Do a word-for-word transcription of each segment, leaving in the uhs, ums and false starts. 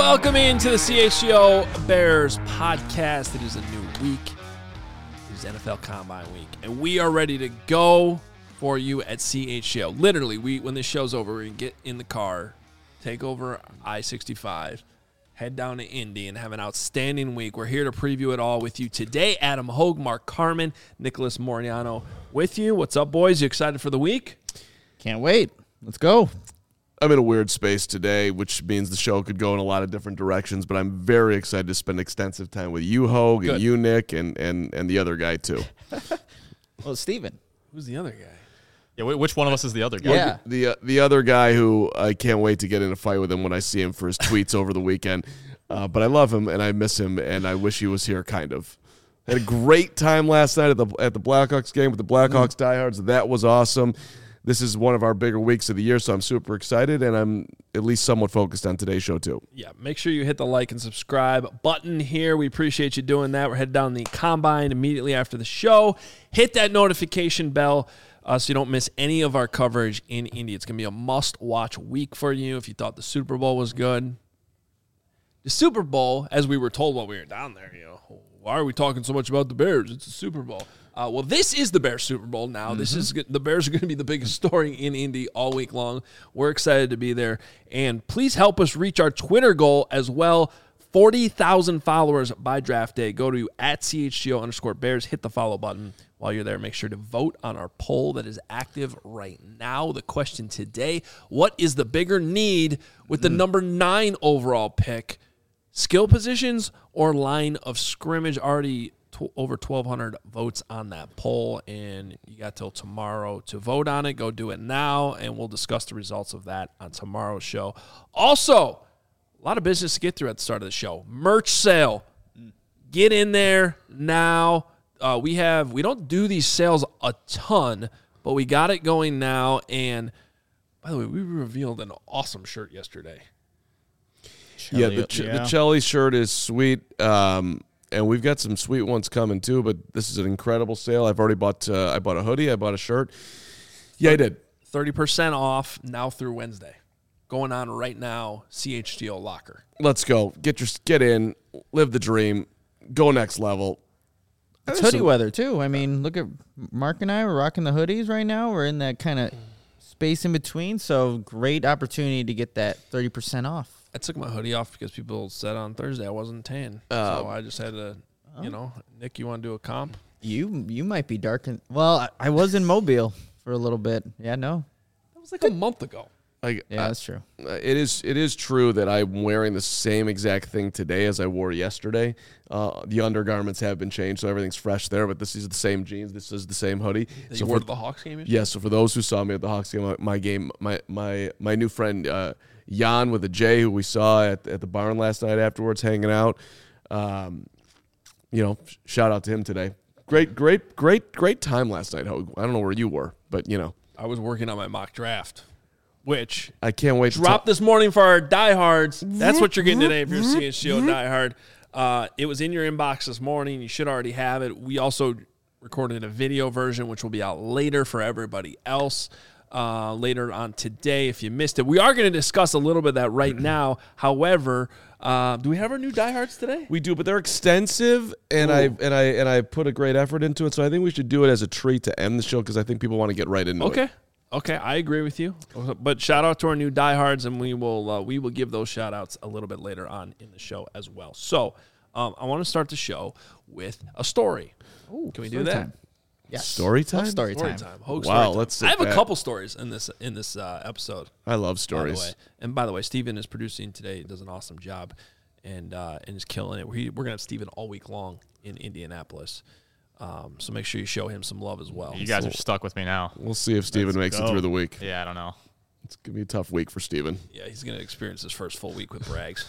welcome into the C H G O Bears podcast. It is a new week. It is N F L Combine week, and we are ready to go for you at C H G O. Literally, we when this show's over, we're going to get in the car, take over I sixty-five, head down to Indy, and have an outstanding week. We're here to preview it all with you today. Adam Hogue, Mark Carman, Nicholas Moriano with you. What's up, boys? You excited for the week? Can't wait. Let's go. I'm in a weird space today, which means the show could go in a lot of different directions, but I'm very excited to spend extensive time with you, Hogue, and you, Nick, and, and, and the other guy, too. Well, Steven. Who's the other guy? Yeah, which one of us is the other guy? Yeah. The uh, the other guy who I can't wait to get in a fight with him when I see him for his tweets over the weekend. Uh, but I love him, and I miss him, and I wish he was here, kind of. Had a great time last night at the at the Blackhawks game with the Blackhawks diehards. That was awesome. This is one of our bigger weeks of the year, so I'm super excited, and I'm at least somewhat focused on today's show, too. Yeah, make sure you hit the like and subscribe button here. We appreciate you doing that. We're headed down the Combine immediately after the show. Hit that notification bell uh, so you don't miss any of our coverage in Indy. It's going to be a must-watch week for you if you thought the Super Bowl was good. The Super Bowl, as we were told while we were down there, you know, why are we talking so much about the Bears? It's a Super Bowl. Uh, well, this is the Bears Super Bowl now. Mm-hmm. This is the Bears are going to be the biggest story in Indy all week long. We're excited to be there. And please help us reach our Twitter goal as well. forty thousand followers by draft day. Go to at C H G O underscore Bears. Hit the follow button while you're there. Make sure to vote on our poll that is active right now. The question today, what is the bigger need with the mm. number nine overall pick? Skill positions or line of scrimmage? Already t- over twelve hundred votes on that poll, and you got till tomorrow to vote on it. Go do it now, and we'll discuss the results of that on tomorrow's show. Also, a lot of business to get through at the start of the show. Merch sale. Get in there now. Uh, we have we don't do these sales a ton, but we got it going now. And by the way, we revealed an awesome shirt yesterday. Yeah, the Ch- yeah. the Chelly shirt is sweet, um, and we've got some sweet ones coming too. But this is an incredible sale. I've already bought. Uh, I bought a hoodie. I bought a shirt. Yeah, I did. Thirty percent off now through Wednesday. Going on right now. C H G O Locker. Let's go. Get your get in. Live the dream. Go next level. It's hoodie some- weather too. I mean, look at Mark and I. We're rocking the hoodies right now. We're in that kind of space in between. So great opportunity to get that thirty percent off. I took my hoodie off because people said on Thursday I wasn't tan. Uh, so I just had to, you know, Nick, you want to do a comp? You you might be dark. In, well, I, I was in Mobile for a little bit. Yeah, no. That was like a month ago. Like, yeah, I, that's true. It is It is true that I'm wearing the same exact thing today as I wore yesterday. Uh, the undergarments have been changed, so everything's fresh there, but this is the same jeans. This is the same hoodie. That so you wore for, to the Hawks game? Yeah, so for those who saw me at the Hawks game, my, my game, my my my new friend, uh, Jan with a J, who we saw at at the barn last night afterwards, hanging out. Um, you know, shout out to him today. Great, great, great, great time last night. I don't know where you were, but you know, I was working on my mock draft, which I can't wait. Dropped to this morning for our diehards. That's what you're getting today if you're a C H G O diehard. Uh, it was in your inbox this morning. You should already have it. We also recorded a video version, which will be out later for everybody else. Uh, later on today, if you missed it, we are going to discuss a little bit of that right now. However, uh, do we have our new diehards today? We do, but they're extensive, and Ooh. I and I and I put a great effort into it. So I think we should do it as a treat to end the show because I think people want to get right into okay. it. Okay. Okay, I agree with you. But shout out to our new diehards, and we will uh, we will give those shout outs a little bit later on in the show as well. So um, I want to start the show with a story. Ooh, Can we do that? Time. Yes. Story time? Story, story time. time. Hogue wow, story let's time. I have back. a couple stories in this in this uh, episode. I love stories. By the way. And by the way, Steven is producing today. He does an awesome job and uh, and is killing it. We, we're going to have Steven all week long in Indianapolis. Um, so make sure you show him some love as well. You guys so are stuck with me now. We'll see if Steven makes go. it through the week. Yeah, I don't know. It's going to be a tough week for Steven. Yeah, he's going to experience his first full week with Braggs.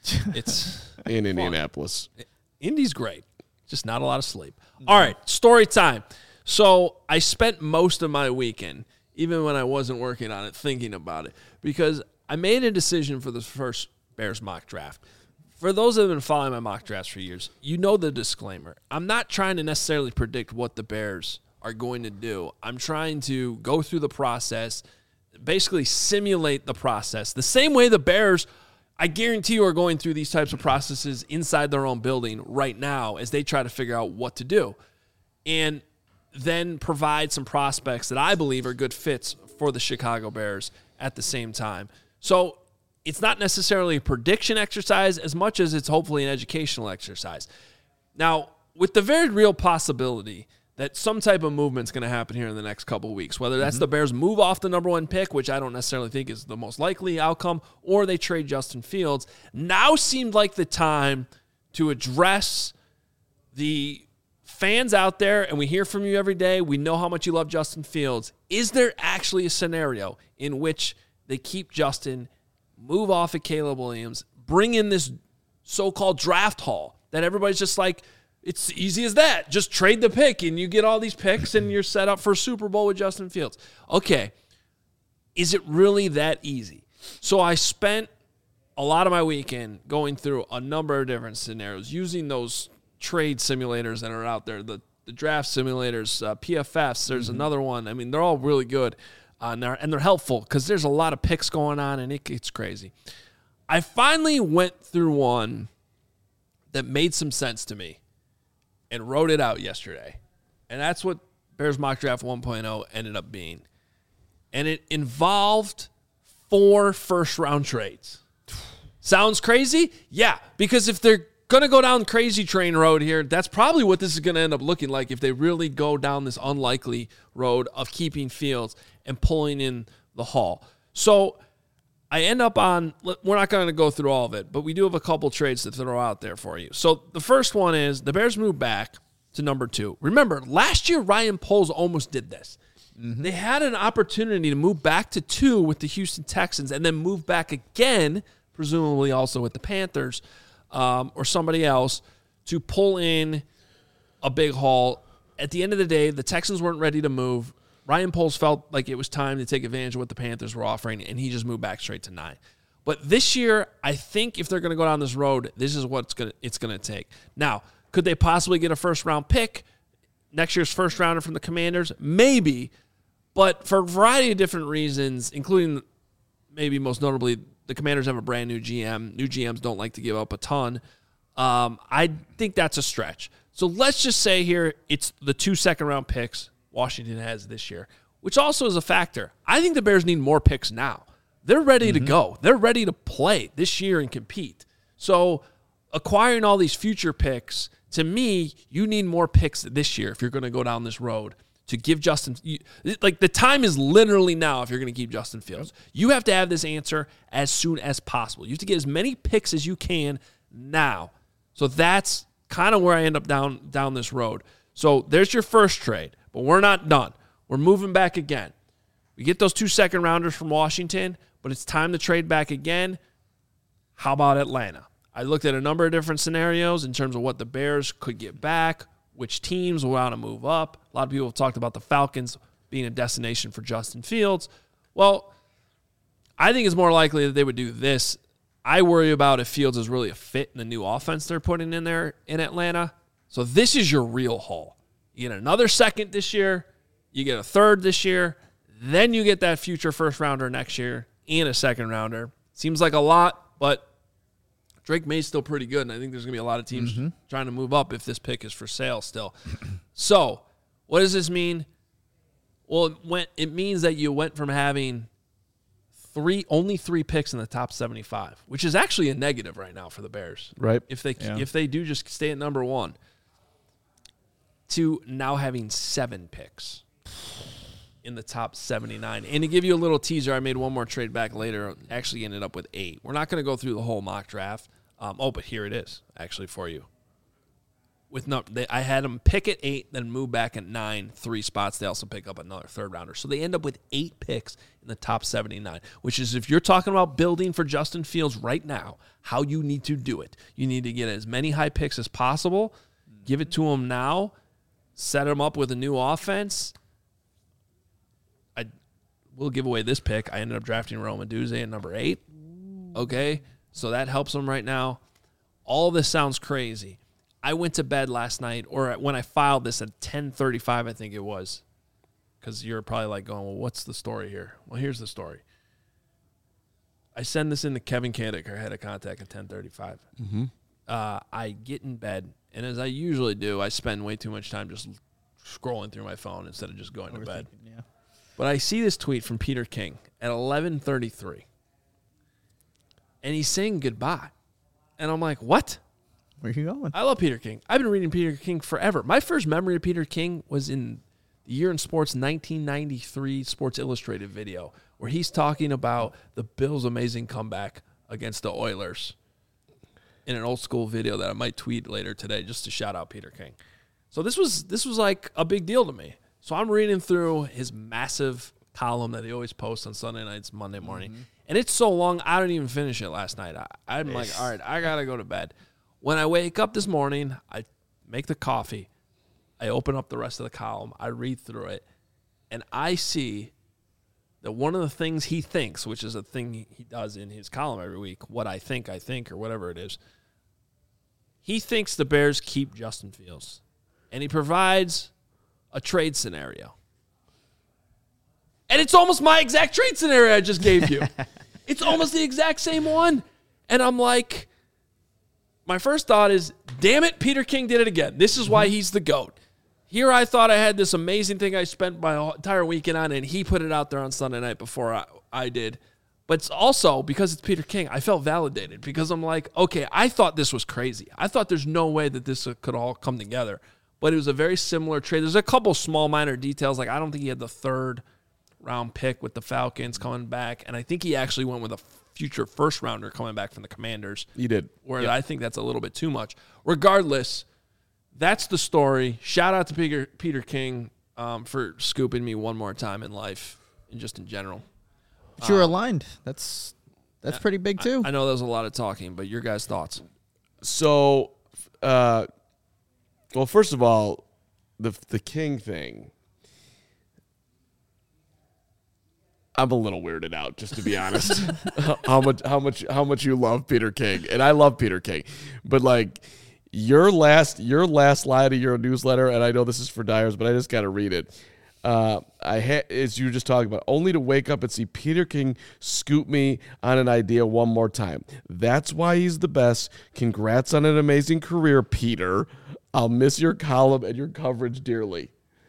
It's in Indianapolis. Fun. Indy's great. Just not a lot of sleep. All right, story time. So I spent most of my weekend, even when I wasn't working on it, thinking about it, because I made a decision for the first Bears mock draft. For those that have been following my mock drafts for years, you know the disclaimer. I'm not trying to necessarily predict what the Bears are going to do. I'm trying to go through the process, basically simulate the process. The same way the Bears I guarantee you are going through these types of processes inside their own building right now as they try to figure out what to do. And then provide some prospects that I believe are good fits for the Chicago Bears at the same time. So it's not necessarily a prediction exercise as much as it's hopefully an educational exercise. Now, with the very real possibility that some type of movement's going to happen here in the next couple of weeks, whether that's mm-hmm. the Bears move off the number one pick, which I don't necessarily think is the most likely outcome, or they trade Justin Fields, now seemed like the time to address the fans out there, and we hear from you every day. We know how much you love Justin Fields. Is there actually a scenario in which they keep Justin, move off of Caleb Williams, bring in this so-called draft haul that everybody's just like, it's easy as that. Just trade the pick, and you get all these picks, and you're set up for a Super Bowl with Justin Fields. Okay, is it really that easy? So I spent a lot of my weekend going through a number of different scenarios, using those trade simulators that are out there, the, the draft simulators, uh, P F Fs. There's mm-hmm. another one. I mean, they're all really good, uh, and, they're, and they're helpful because there's a lot of picks going on, and it, it's crazy. I finally went through one that made some sense to me and wrote it out yesterday. And that's what Bears Mock Draft one point oh ended up being. And it involved four first-round trades. Sounds crazy? Yeah, because if they're going to go down crazy train road here, that's probably what this is going to end up looking like if they really go down this unlikely road of keeping Fields and pulling in the haul. So I end up on, we're not going to go through all of it, but we do have a couple trades to throw out there for you. So the first one is the Bears move back to number two. Remember, last year Ryan Poles almost did this. Mm-hmm. They had an opportunity to move back to two with the Houston Texans and then move back again, presumably also with the Panthers um, or somebody else, to pull in a big haul. At the end of the day, the Texans weren't ready to move. Ryan Poles felt like it was time to take advantage of what the Panthers were offering, and he just moved back straight to nine. But this year, I think if they're going to go down this road, this is what it's going to it's going to take. Now, could they possibly get a first-round pick, next year's first-rounder from the Commanders? Maybe, but for a variety of different reasons, including maybe most notably the Commanders have a brand-new G M. New G Ms don't like to give up a ton. Um, I think that's a stretch. So let's just say here it's the two second-round picks Washington has this year, which also is a factor. I think the Bears need more picks now. They're ready mm-hmm. to go. They're ready to play this year and compete. So acquiring all these future picks, to me, you need more picks this year if you're going to go down this road to give Justin you, – like the time is literally now if you're going to keep Justin Fields. You have to have this answer as soon as possible. You have to get as many picks as you can now. So that's kind of where I end up down down this road. So there's your first trade. But we're not done. We're moving back again. We get those two second-rounders from Washington, but it's time to trade back again. How about Atlanta? I looked at a number of different scenarios in terms of what the Bears could get back, which teams will want to move up. A lot of people have talked about the Falcons being a destination for Justin Fields. Well, I think it's more likely that they would do this. I worry about if Fields is really a fit in the new offense they're putting in there in Atlanta. So this is your real haul. You get another second this year, you get a third this year, then you get that future first rounder next year and a second rounder. Seems like a lot, but Drake May's still pretty good, and I think there's going to be a lot of teams mm-hmm. trying to move up if this pick is for sale still. So what does this mean? Well, it, went, it means that you went from having three only three picks in the top seventy-five, which is actually a negative right now for the Bears. Right. If they yeah. if they do just stay at number one, to now having seven picks in the top seventy-nine. And to give you a little teaser, I made one more trade back later. Actually ended up with eight. We're not going to go through the whole mock draft. Um, oh, but here it is, actually, for you. With no, they, I had them pick at eight, then move back at nine, three spots. They also pick up another third rounder. So they end up with eight picks in the top seventy-nine, which is if you're talking about building for Justin Fields right now, how you need to do it. You need to get as many high picks as possible, give it to him now, set him up with a new offense. I will give away this pick. I ended up drafting Rome Odunze at number eight. Okay, so that helps him right now. All this sounds crazy. I went to bed last night, or when I filed this at ten thirty-five, I think it was, because you're probably like going, well, what's the story here? Well, here's the story. I send this in to Kevin Kandick, our head of contact at ten thirty-five. Mm-hmm. Uh, I get in bed, and as I usually do, I spend way too much time just scrolling through my phone instead of just going to bed. Yeah. But I see this tweet from Peter King at eleven thirty-three, and he's saying goodbye. And I'm like, what? Where you going? I love Peter King. I've been reading Peter King forever. My first memory of Peter King was in the Year in Sports nineteen ninety-three Sports Illustrated video where he's talking about the Bills' amazing comeback against the Oilers in an old school video that I might tweet later today just to shout out Peter King. So this was this was like a big deal to me. So I'm reading through his massive column that he always posts on Sunday nights, Monday morning. Mm-hmm. And it's so long, I didn't even finish it last night. I, I'm like, all right, I got to go to bed. When I wake up this morning, I make the coffee. I open up the rest of the column. I read through it. And I see that one of the things he thinks, which is a thing he does in his column every week, what I think, I think, or whatever it is, he thinks the Bears keep Justin Fields. And he provides a trade scenario. And it's almost my exact trade scenario I just gave you. It's almost the exact same one. And I'm like, my first thought is, damn it, Peter King did it again. This is why he's the GOAT. Here I thought I had this amazing thing I spent my entire weekend on, and he put it out there on Sunday night before I, I did. But it's also, because it's Peter King, I felt validated because I'm like, okay, I thought this was crazy. I thought there's no way that this could all come together. But it was a very similar trade. There's a couple small minor details. Like I don't think he had the third round pick with the Falcons coming back. And I think he actually went with a future first rounder coming back from the Commanders. He did. Where yep. I think that's a little bit too much. Regardless, that's the story. Shout out to Peter, Peter King um, for scooping me one more time in life and just in general. But you're um, aligned. That's that's pretty big too. I, I know there's a lot of talking, but your guys' thoughts. So, uh, well, first of all, the the King thing. I'm a little weirded out, just to be honest. how much how much how much you love Peter King, and I love Peter King, but like your last your last line of your newsletter, and I know this is for Dyers, but I just got to read it. Uh, I ha- as you were just talking about, only to wake up and see Peter King scoop me on an idea one more time. That's why he's the best. Congrats on an amazing career, Peter. I'll miss your column and your coverage dearly.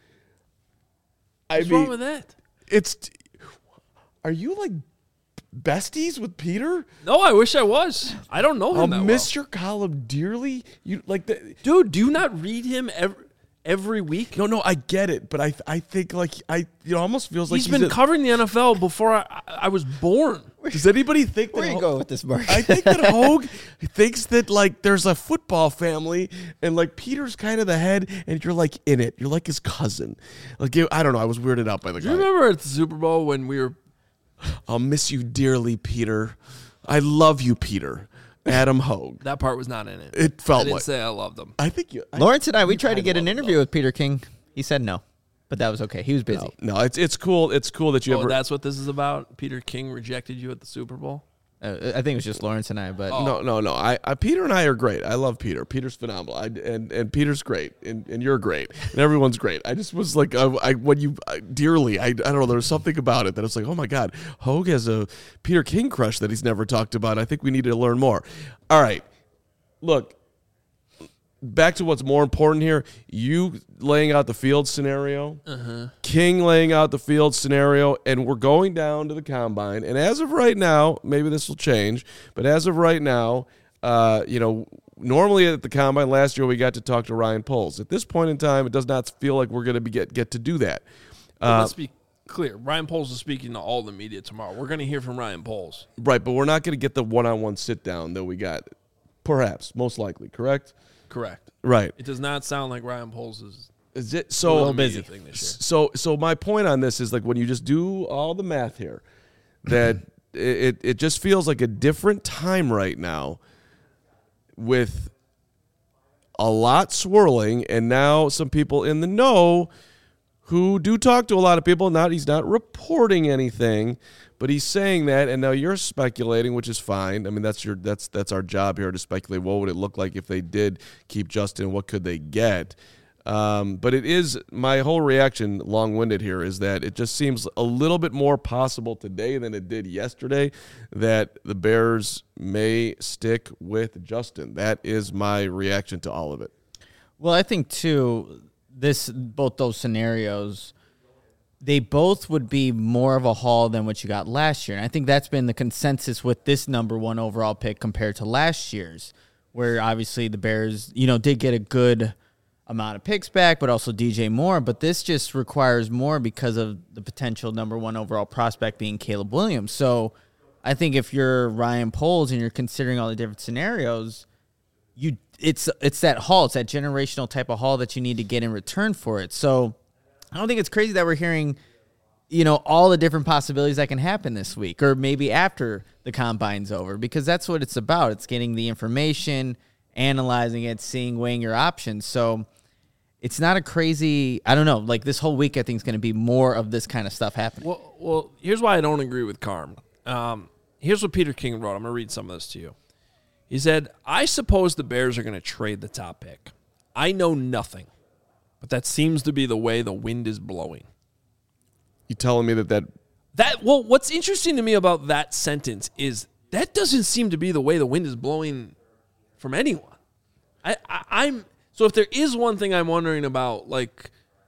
I What's mean, wrong with that? It's. Are you like besties with Peter? No, I wish I was. I don't know him I'll that miss well. your column dearly. You like the dude. Do you not read him every every week? No, no, I get it, but I I think like I it almost feels like he's, he's been a, covering the N F L before I, I was born. Does anybody think Where that you Ho- go with this, Mark? I think that Hogue thinks that like there's a football family and like Peter's kind of the head and you're like in it. You're like his cousin. Like I don't know. I was weirded out by the Do guy. you remember at the Super Bowl when we were? I'll miss you dearly, Peter. I love you, Peter. Adam Hogue. That part was not in it. It felt I didn't like say I loved him. I think you. I, Lawrence and I, we tried to I get an love interview with Peter King. He said no, but that was okay. He was busy. No, no, it's it's cool. It's cool that you Oh, ever. that's what this is about. Peter King rejected you at the Super Bowl. Uh, I think it was just Lawrence and I, but Oh. No, no, no. I, I, Peter and I are great. I love Peter. Peter's phenomenal. I, and and Peter's great, and, and you're great, and everyone's great. I just was like, I, I when you I, dearly, I, I don't know. There was something about it that I was like, oh my god, Hogue has a Peter King crush that he's never talked about. I think we need to learn more. All right, look. Back to what's more important here. You laying out the field scenario, uh-huh. King laying out the field scenario, and we're going down to the combine. And as of right now, maybe this will change, but as of right now, uh, you know, normally at the combine last year we got to talk to Ryan Poles. At this point in time, it does not feel like we're going to be get get to do that. Well, Uh, let's be clear. Ryan Poles is speaking to all the media tomorrow. We're going to hear from Ryan Poles. right, but we're not going to get the one-on-one sit down that we got. Perhaps, most likely, correct? Correct. Right. It does not sound like Ryan Poles is Is it a so little busy thing this year. So, so my point on this is like when you just do all the math here, that it it just feels like a different time right now, with a lot swirling, and now some people in the know who do talk to a lot of people. Not he's not reporting anything, but he's saying that, and now you're speculating, which is fine. I mean, that's your that's that's our job here to speculate. What would it look like if they did keep Justin? What could they get? Um, but it is, my whole reaction, long-winded here, is that it just seems a little bit more possible today than it did yesterday that the Bears may stick with Justin. That is my reaction to all of it. Well, I think, too, this both those scenarios, they both would be more of a haul than what you got last year. And I think that's been the consensus with this number one overall pick compared to last year's, where obviously the Bears, you know, did get a good amount of picks back, but also D J Moore. But this just requires more because of the potential number one overall prospect being Caleb Williams. So I think if you're Ryan Poles and you're considering all the different scenarios, you it's it's that haul, it's that generational type of haul that you need to get in return for it. So I don't think it's crazy that we're hearing, you know, all the different possibilities that can happen this week or maybe after the combine's over, because that's what it's about. It's getting the information, analyzing it, seeing, weighing your options. So it's not a crazy, I don't know, like this whole week I think is going to be more of this kind of stuff happening. Well, well, here's why I don't agree with Carm. Um, here's what Peter King wrote. I'm going to read some of this to you. He said, I suppose the Bears are going to trade the top pick. I know nothing, but that seems to be the way the wind is blowing. You telling me that that... That well, what's interesting to me about that sentence is that doesn't seem to be the way the wind is blowing from anyone. I, I I'm... So if there is one thing I'm wondering about, like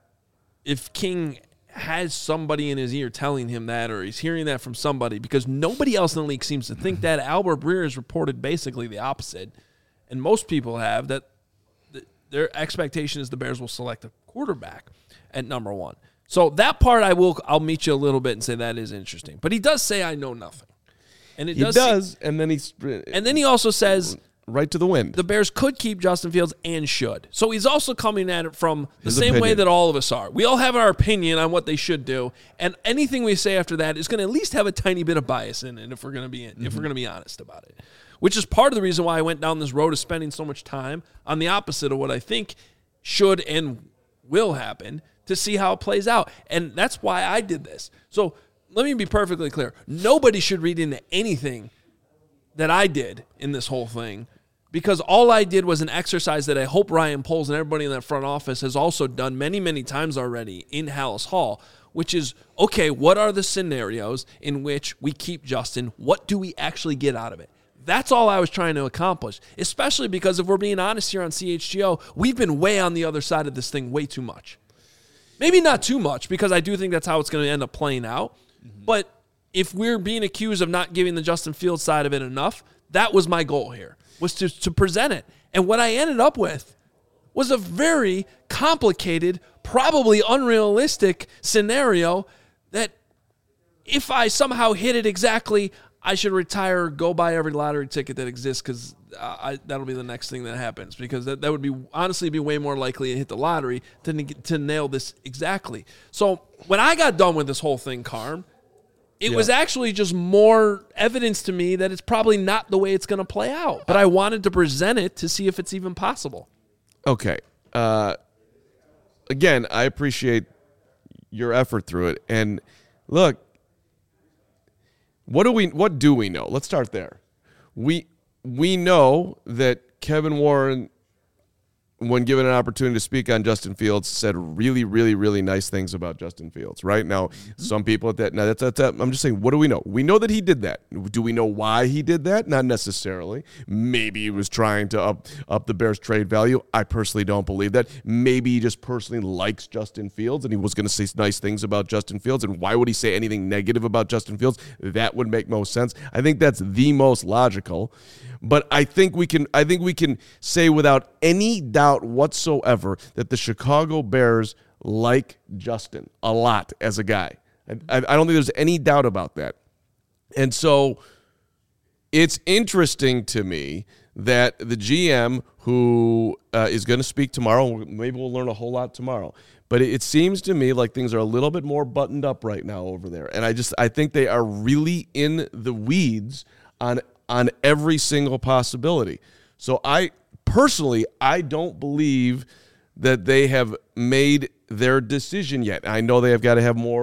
if King has somebody in his ear telling him that, or he's hearing that from somebody, because nobody else in the league seems to think that. Albert Breer has reported basically the opposite, and most people have, that th- their expectation is the Bears will select a quarterback at number one. So that part I will, I'll meet you a little bit and say that is interesting. But he does say I know nothing, and it He does, does, seem, and then he's... and then he also says right to the wind. the Bears could keep Justin Fields and should. So he's also coming at it from the His same way opinion. that all of us are. We all have our opinion on what they should do, and anything we say after that is going to at least have a tiny bit of bias in it if we're going to be mm-hmm. if we're going to be honest about it. Which is part of the reason why I went down this road of spending so much time on the opposite of what I think should and will happen to see how it plays out. And that's why I did this. So let me be perfectly clear. Nobody should read into anything that I did in this whole thing, because all I did was an exercise that I hope Ryan Poles and everybody in that front office has also done many, many times already in Hallis Hall, which is, okay, what are the scenarios in which we keep Justin? What do we actually get out of it? That's all I was trying to accomplish, especially because if we're being honest here on C H G O, we've been way on the other side of this thing way too much. Maybe not too much, because I do think that's how it's going to end up playing out. Mm-hmm. But if we're being accused of not giving the Justin Fields side of it enough, that was my goal here, was to, to present it. And what I ended up with was a very complicated, probably unrealistic scenario that if I somehow hit it exactly, I should retire or go buy every lottery ticket that exists, because uh, that'll be the next thing that happens, because that, that would be honestly be way more likely to hit the lottery than to, get, to nail this exactly. So when I got done with this whole thing, Carm, it yeah. was actually just more evidence to me that it's probably not the way it's going to play out. But I wanted to present it to see if it's even possible. Okay. Uh, again, I appreciate your effort through it. And look, what do we what do we know? Let's start there. We we know that Kevin Warren, when given an opportunity to speak on Justin Fields, said really, really, really nice things about Justin Fields, right? Now, mm-hmm. some people at that, now that's, that's, that's, I'm just saying, what do we know? We know that he did that. Do we know why he did that? Not necessarily. Maybe he was trying to up, up the Bears' trade value. I personally don't believe that. Maybe he just personally likes Justin Fields and he was going to say nice things about Justin Fields. And why would he say anything negative about Justin Fields? That would make most sense. I think that's the most logical. But I think we can I think we can say without any doubt whatsoever that the Chicago Bears like Justin a lot as a guy. I, I don't think there's any doubt about that. And so it's interesting to me that the G M who uh, is going to speak tomorrow, maybe we'll learn a whole lot tomorrow, but it, it seems to me like things are a little bit more buttoned up right now over there. And I just I think they are really in the weeds on on every single possibility. So I personally, I don't believe that they have made their decision yet. I know they have got to have more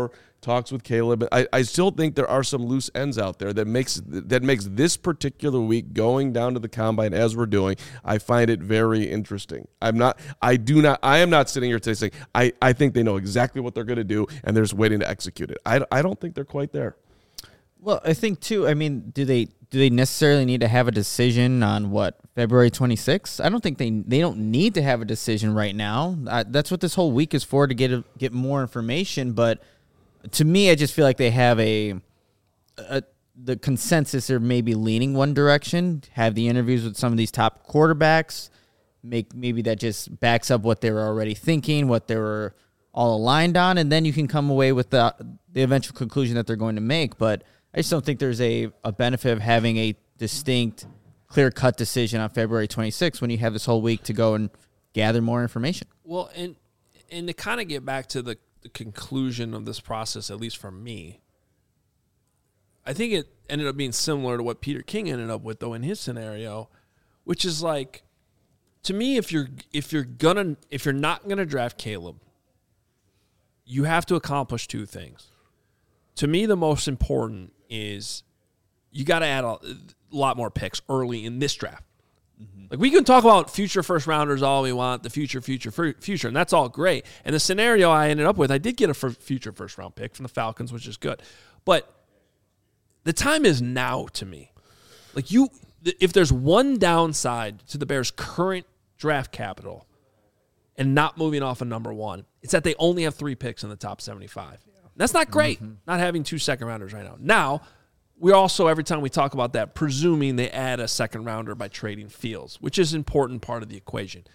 talks with Caleb. I, I still think there are some loose ends out there that makes that makes this particular week going down to the combine as we're doing. I find it very interesting. I'm not. I do not. I am not sitting here today saying I, I think they know exactly what they're going to do and they're just waiting to execute it. I, I don't think they're quite there. Well, I think too. I mean, do they do they necessarily need to have a decision on what February twenty-sixth? I don't think they they don't need to have a decision right now. Uh, that's what this whole week is for, to get a, get more information. But to me, I just feel like they have a, a the consensus. They're maybe leaning one direction. Have the interviews with some of these top quarterbacks. Make maybe that just backs up what they were already thinking, what they were all aligned on, and then you can come away with the the eventual conclusion that they're going to make. But I just don't think there's a, a benefit of having a distinct, clear-cut decision on February twenty-sixth when you have this whole week to go and gather more information. Well, and and to kind of get back to the, the conclusion of this process, at least for me, I think it ended up being similar to what Peter King ended up with, though, in his scenario, which is like, to me, if you're if you're gonna if you're not gonna draft Caleb, you have to accomplish two things. To me, the most important is you got to add a lot more picks early in this draft. Mm-hmm. Like, we can talk about future first rounders all we want, the future, future, future, and that's all great. And the scenario I ended up with, I did get a future first round pick from the Falcons, which is good. But the time is now to me. Like, you, if there's one downside to the Bears' current draft capital and not moving off of number one, it's that they only have three picks in the top seventy-five. That's not great, mm-hmm. not having two second rounders right now. Now, we're also, every time we talk about that, presuming they add a second rounder by trading Fields, which is an important part of the equation.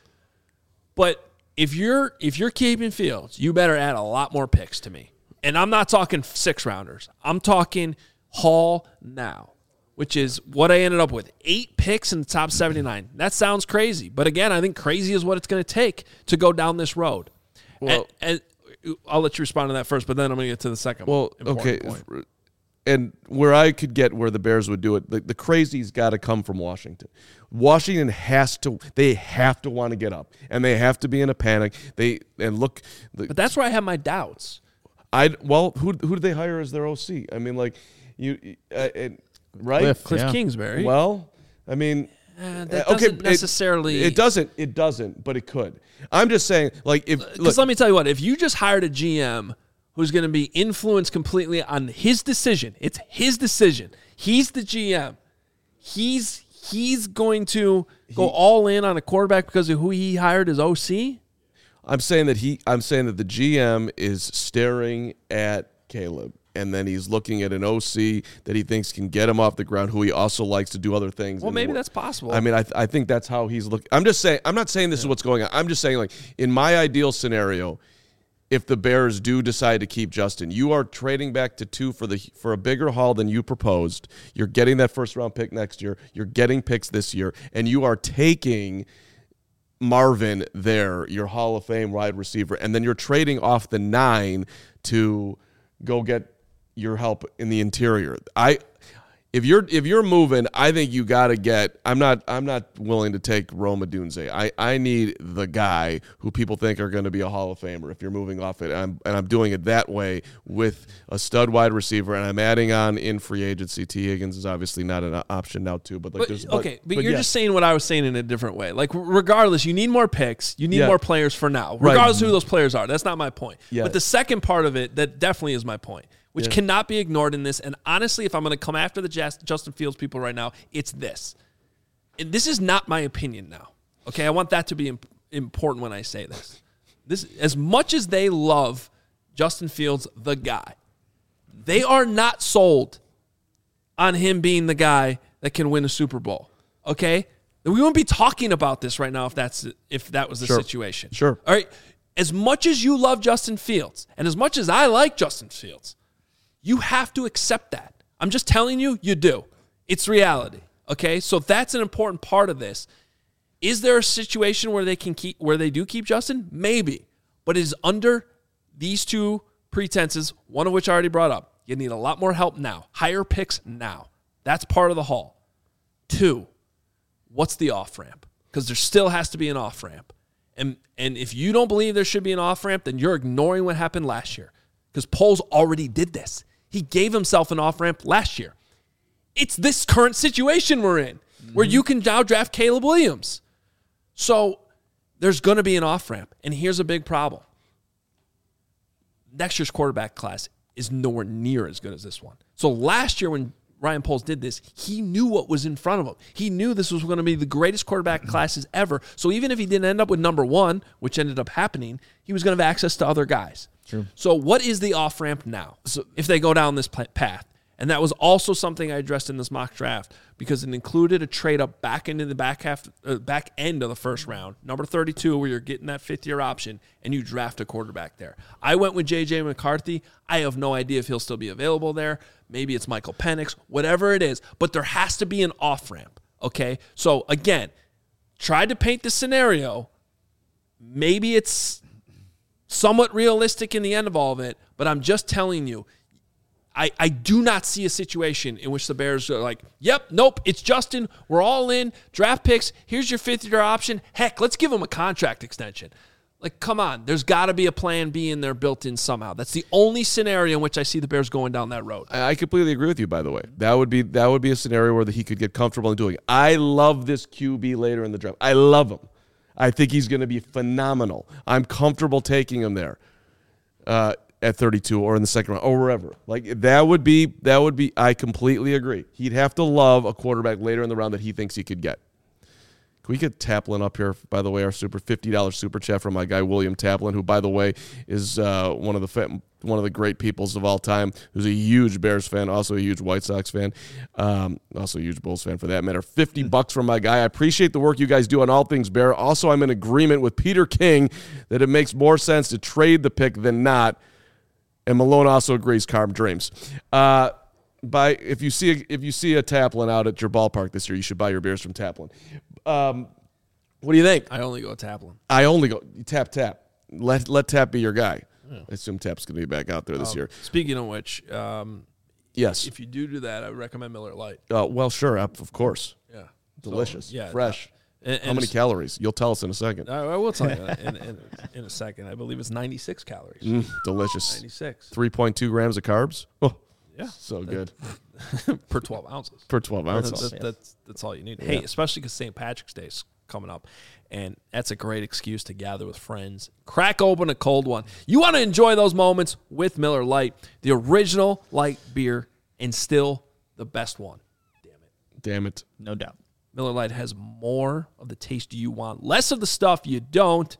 But if you're if you're keeping Fields, you better add a lot more picks to me. And I'm not talking six rounders. I'm talking haul now, which is what I ended up with. Eight picks in the top seventy-nine. That sounds crazy. But again, I think crazy is what it's going to take to go down this road. Well, and, and I'll let you respond to that first, but then I'm going to get to the second. Well, okay. Point. And where I could get where the Bears would do it, the, the crazy's got to come from Washington. Washington has to, they have to want to get up, and they have to be in a panic. They and look. The, but that's where I have my doubts. I well, who who did they hire as their O C? I mean, like you, uh, and, right? Cliff, Cliff yeah. Kingsbury. Well, I mean. Uh, that doesn't okay, necessarily. It, it doesn't. It doesn't. But it could. I'm just saying, like, if because let me tell you what, if you just hired a G M who's going to be influenced completely on his decision, it's his decision. He's the G M. He's he's going to go he, all in on a quarterback because of who he hired as O C. I'm saying that he. I'm saying that the G M is staring at Caleb. And then he's looking at an O C that he thinks can get him off the ground, who he also likes to do other things. Well, maybe that's possible. I mean, I th- I think that's how he's looking. I'm just saying. I'm not saying this yeah. is what's going on. I'm just saying, like, in my ideal scenario, if the Bears do decide to keep Justin, you are trading back to two for the for a bigger haul than you proposed. You're getting that first round pick next year. You're getting picks this year, and you are taking Marvin there, your Hall of Fame wide receiver, and then you're trading off the nine to go get your help in the interior. I, if you're if you're moving, I think you got to get. I'm not I'm not willing to take Rome Odunze. I, I need the guy who people think are going to be a Hall of Famer. If you're moving off it, and I'm and I'm doing it that way with a stud wide receiver, and I'm adding on in free agency. T. Higgins is obviously not an option now too. But like, but, there's okay, but, but, but you're yeah. just saying what I was saying in a different way. Like, regardless, you need more picks. You need yeah. more players for now, regardless right. of who those players are. That's not my point. Yeah. But the second part of it, that definitely is my point, which yeah. cannot be ignored in this. And honestly, if I'm going to come after the Justin Fields people right now, it's this. And this is not my opinion now. Okay, I want that to be imp- important when I say this. This, as much as they love Justin Fields, the guy, they are not sold on him being the guy that can win a Super Bowl. Okay, we wouldn't be talking about this right now if that's if that was the sure. situation. Sure. All right. As much as you love Justin Fields, and as much as I like Justin Fields, you have to accept that. I'm just telling you, you do. It's reality. Okay? So that's an important part of this. Is there a situation where they can keep where they do keep Justin? Maybe. But it is under these two pretenses, one of which I already brought up. You need a lot more help now. Higher picks now. That's part of the haul. Two, what's the off-ramp? Because there still has to be an off-ramp. And and if you don't believe there should be an off-ramp, then you're ignoring what happened last year. because Poles already did this. He gave himself an off-ramp last year. It's this current situation we're in mm-hmm. where you can now draft Caleb Williams. So there's going to be an off-ramp. And here's a big problem. Next year's quarterback class is nowhere near as good as this one. So last year when Ryan Poles did this, he knew what was in front of him. He knew this was going to be the greatest quarterback classes ever. So even if he didn't end up with number one, which ended up happening, he was going to have access to other guys. True. So what is the off-ramp now so if they go down this path? And that was also something I addressed in this mock draft because it included a trade up back into the back half, uh, back end of the first round, number thirty-two, where you're getting that fifth-year option, and you draft a quarterback there. I went with J J McCarthy. I have no idea if he'll still be available there. Maybe it's Michael Penix, whatever it is. But there has to be an off-ramp, okay? So, again, tried to paint the scenario. Maybe it's somewhat realistic in the end of all of it, but I'm just telling you, I, I do not see a situation in which the Bears are like, yep, nope, it's Justin. We're all in. Draft picks. Here's your fifth-year option. Heck, let's give him a contract extension. Like, come on. There's got to be a plan B in there built in somehow. That's the only scenario in which I see the Bears going down that road. I completely agree with you, by the way. That would be that would be a scenario where he could get comfortable in doing it. I love this Q B later in the draft. I love him. I think he's going to be phenomenal. I'm comfortable taking him there. Uh at thirty-two or in the second round or wherever. Like that would be, that would be, I completely agree. He'd have to love a quarterback later in the round that he thinks he could get. Can we get Taplin up here, by the way, our super fifty dollars super chat from my guy, William Taplin, who, by the way, is uh, one of the fa- one of the great peoples of all time, who's a huge Bears fan, also a huge White Sox fan, um, also a huge Bulls fan for that matter. fifty bucks from my guy. I appreciate the work you guys do on all things Bear. Also, I'm in agreement with Peter King that it makes more sense to trade the pick than not. And Malone also agrees, Carm dreams. Uh, by if you see a, if you see a Taplin out at your ballpark this year, you should buy your beers from Taplin. Um, what do you think? I only go Taplin. I only go tap tap. Let let Tap be your guy. Yeah. I assume Tap's going to be back out there this um, year. Speaking of which, um, yes, if you do do that, I would recommend Miller Lite. Uh, well, sure, of course. Yeah, delicious. So, yeah, fresh. And, and How many calories? You'll tell us in a second. I, I will tell you in, in, in a second. I believe it's ninety-six calories. Mm, delicious. ninety-six. three point two grams of carbs. Oh, yeah. So good. Per twelve ounces. Per twelve ounces. That's, that's, that's, that's all you need. Yeah. Hey, especially because Saint Patrick's Day is coming up, and that's a great excuse to gather with friends. Crack open a cold one. You want to enjoy those moments with Miller Lite, the original light beer, and still the best one. Damn it. Damn it. No doubt. Miller Lite has more of the taste you want, less of the stuff you don't.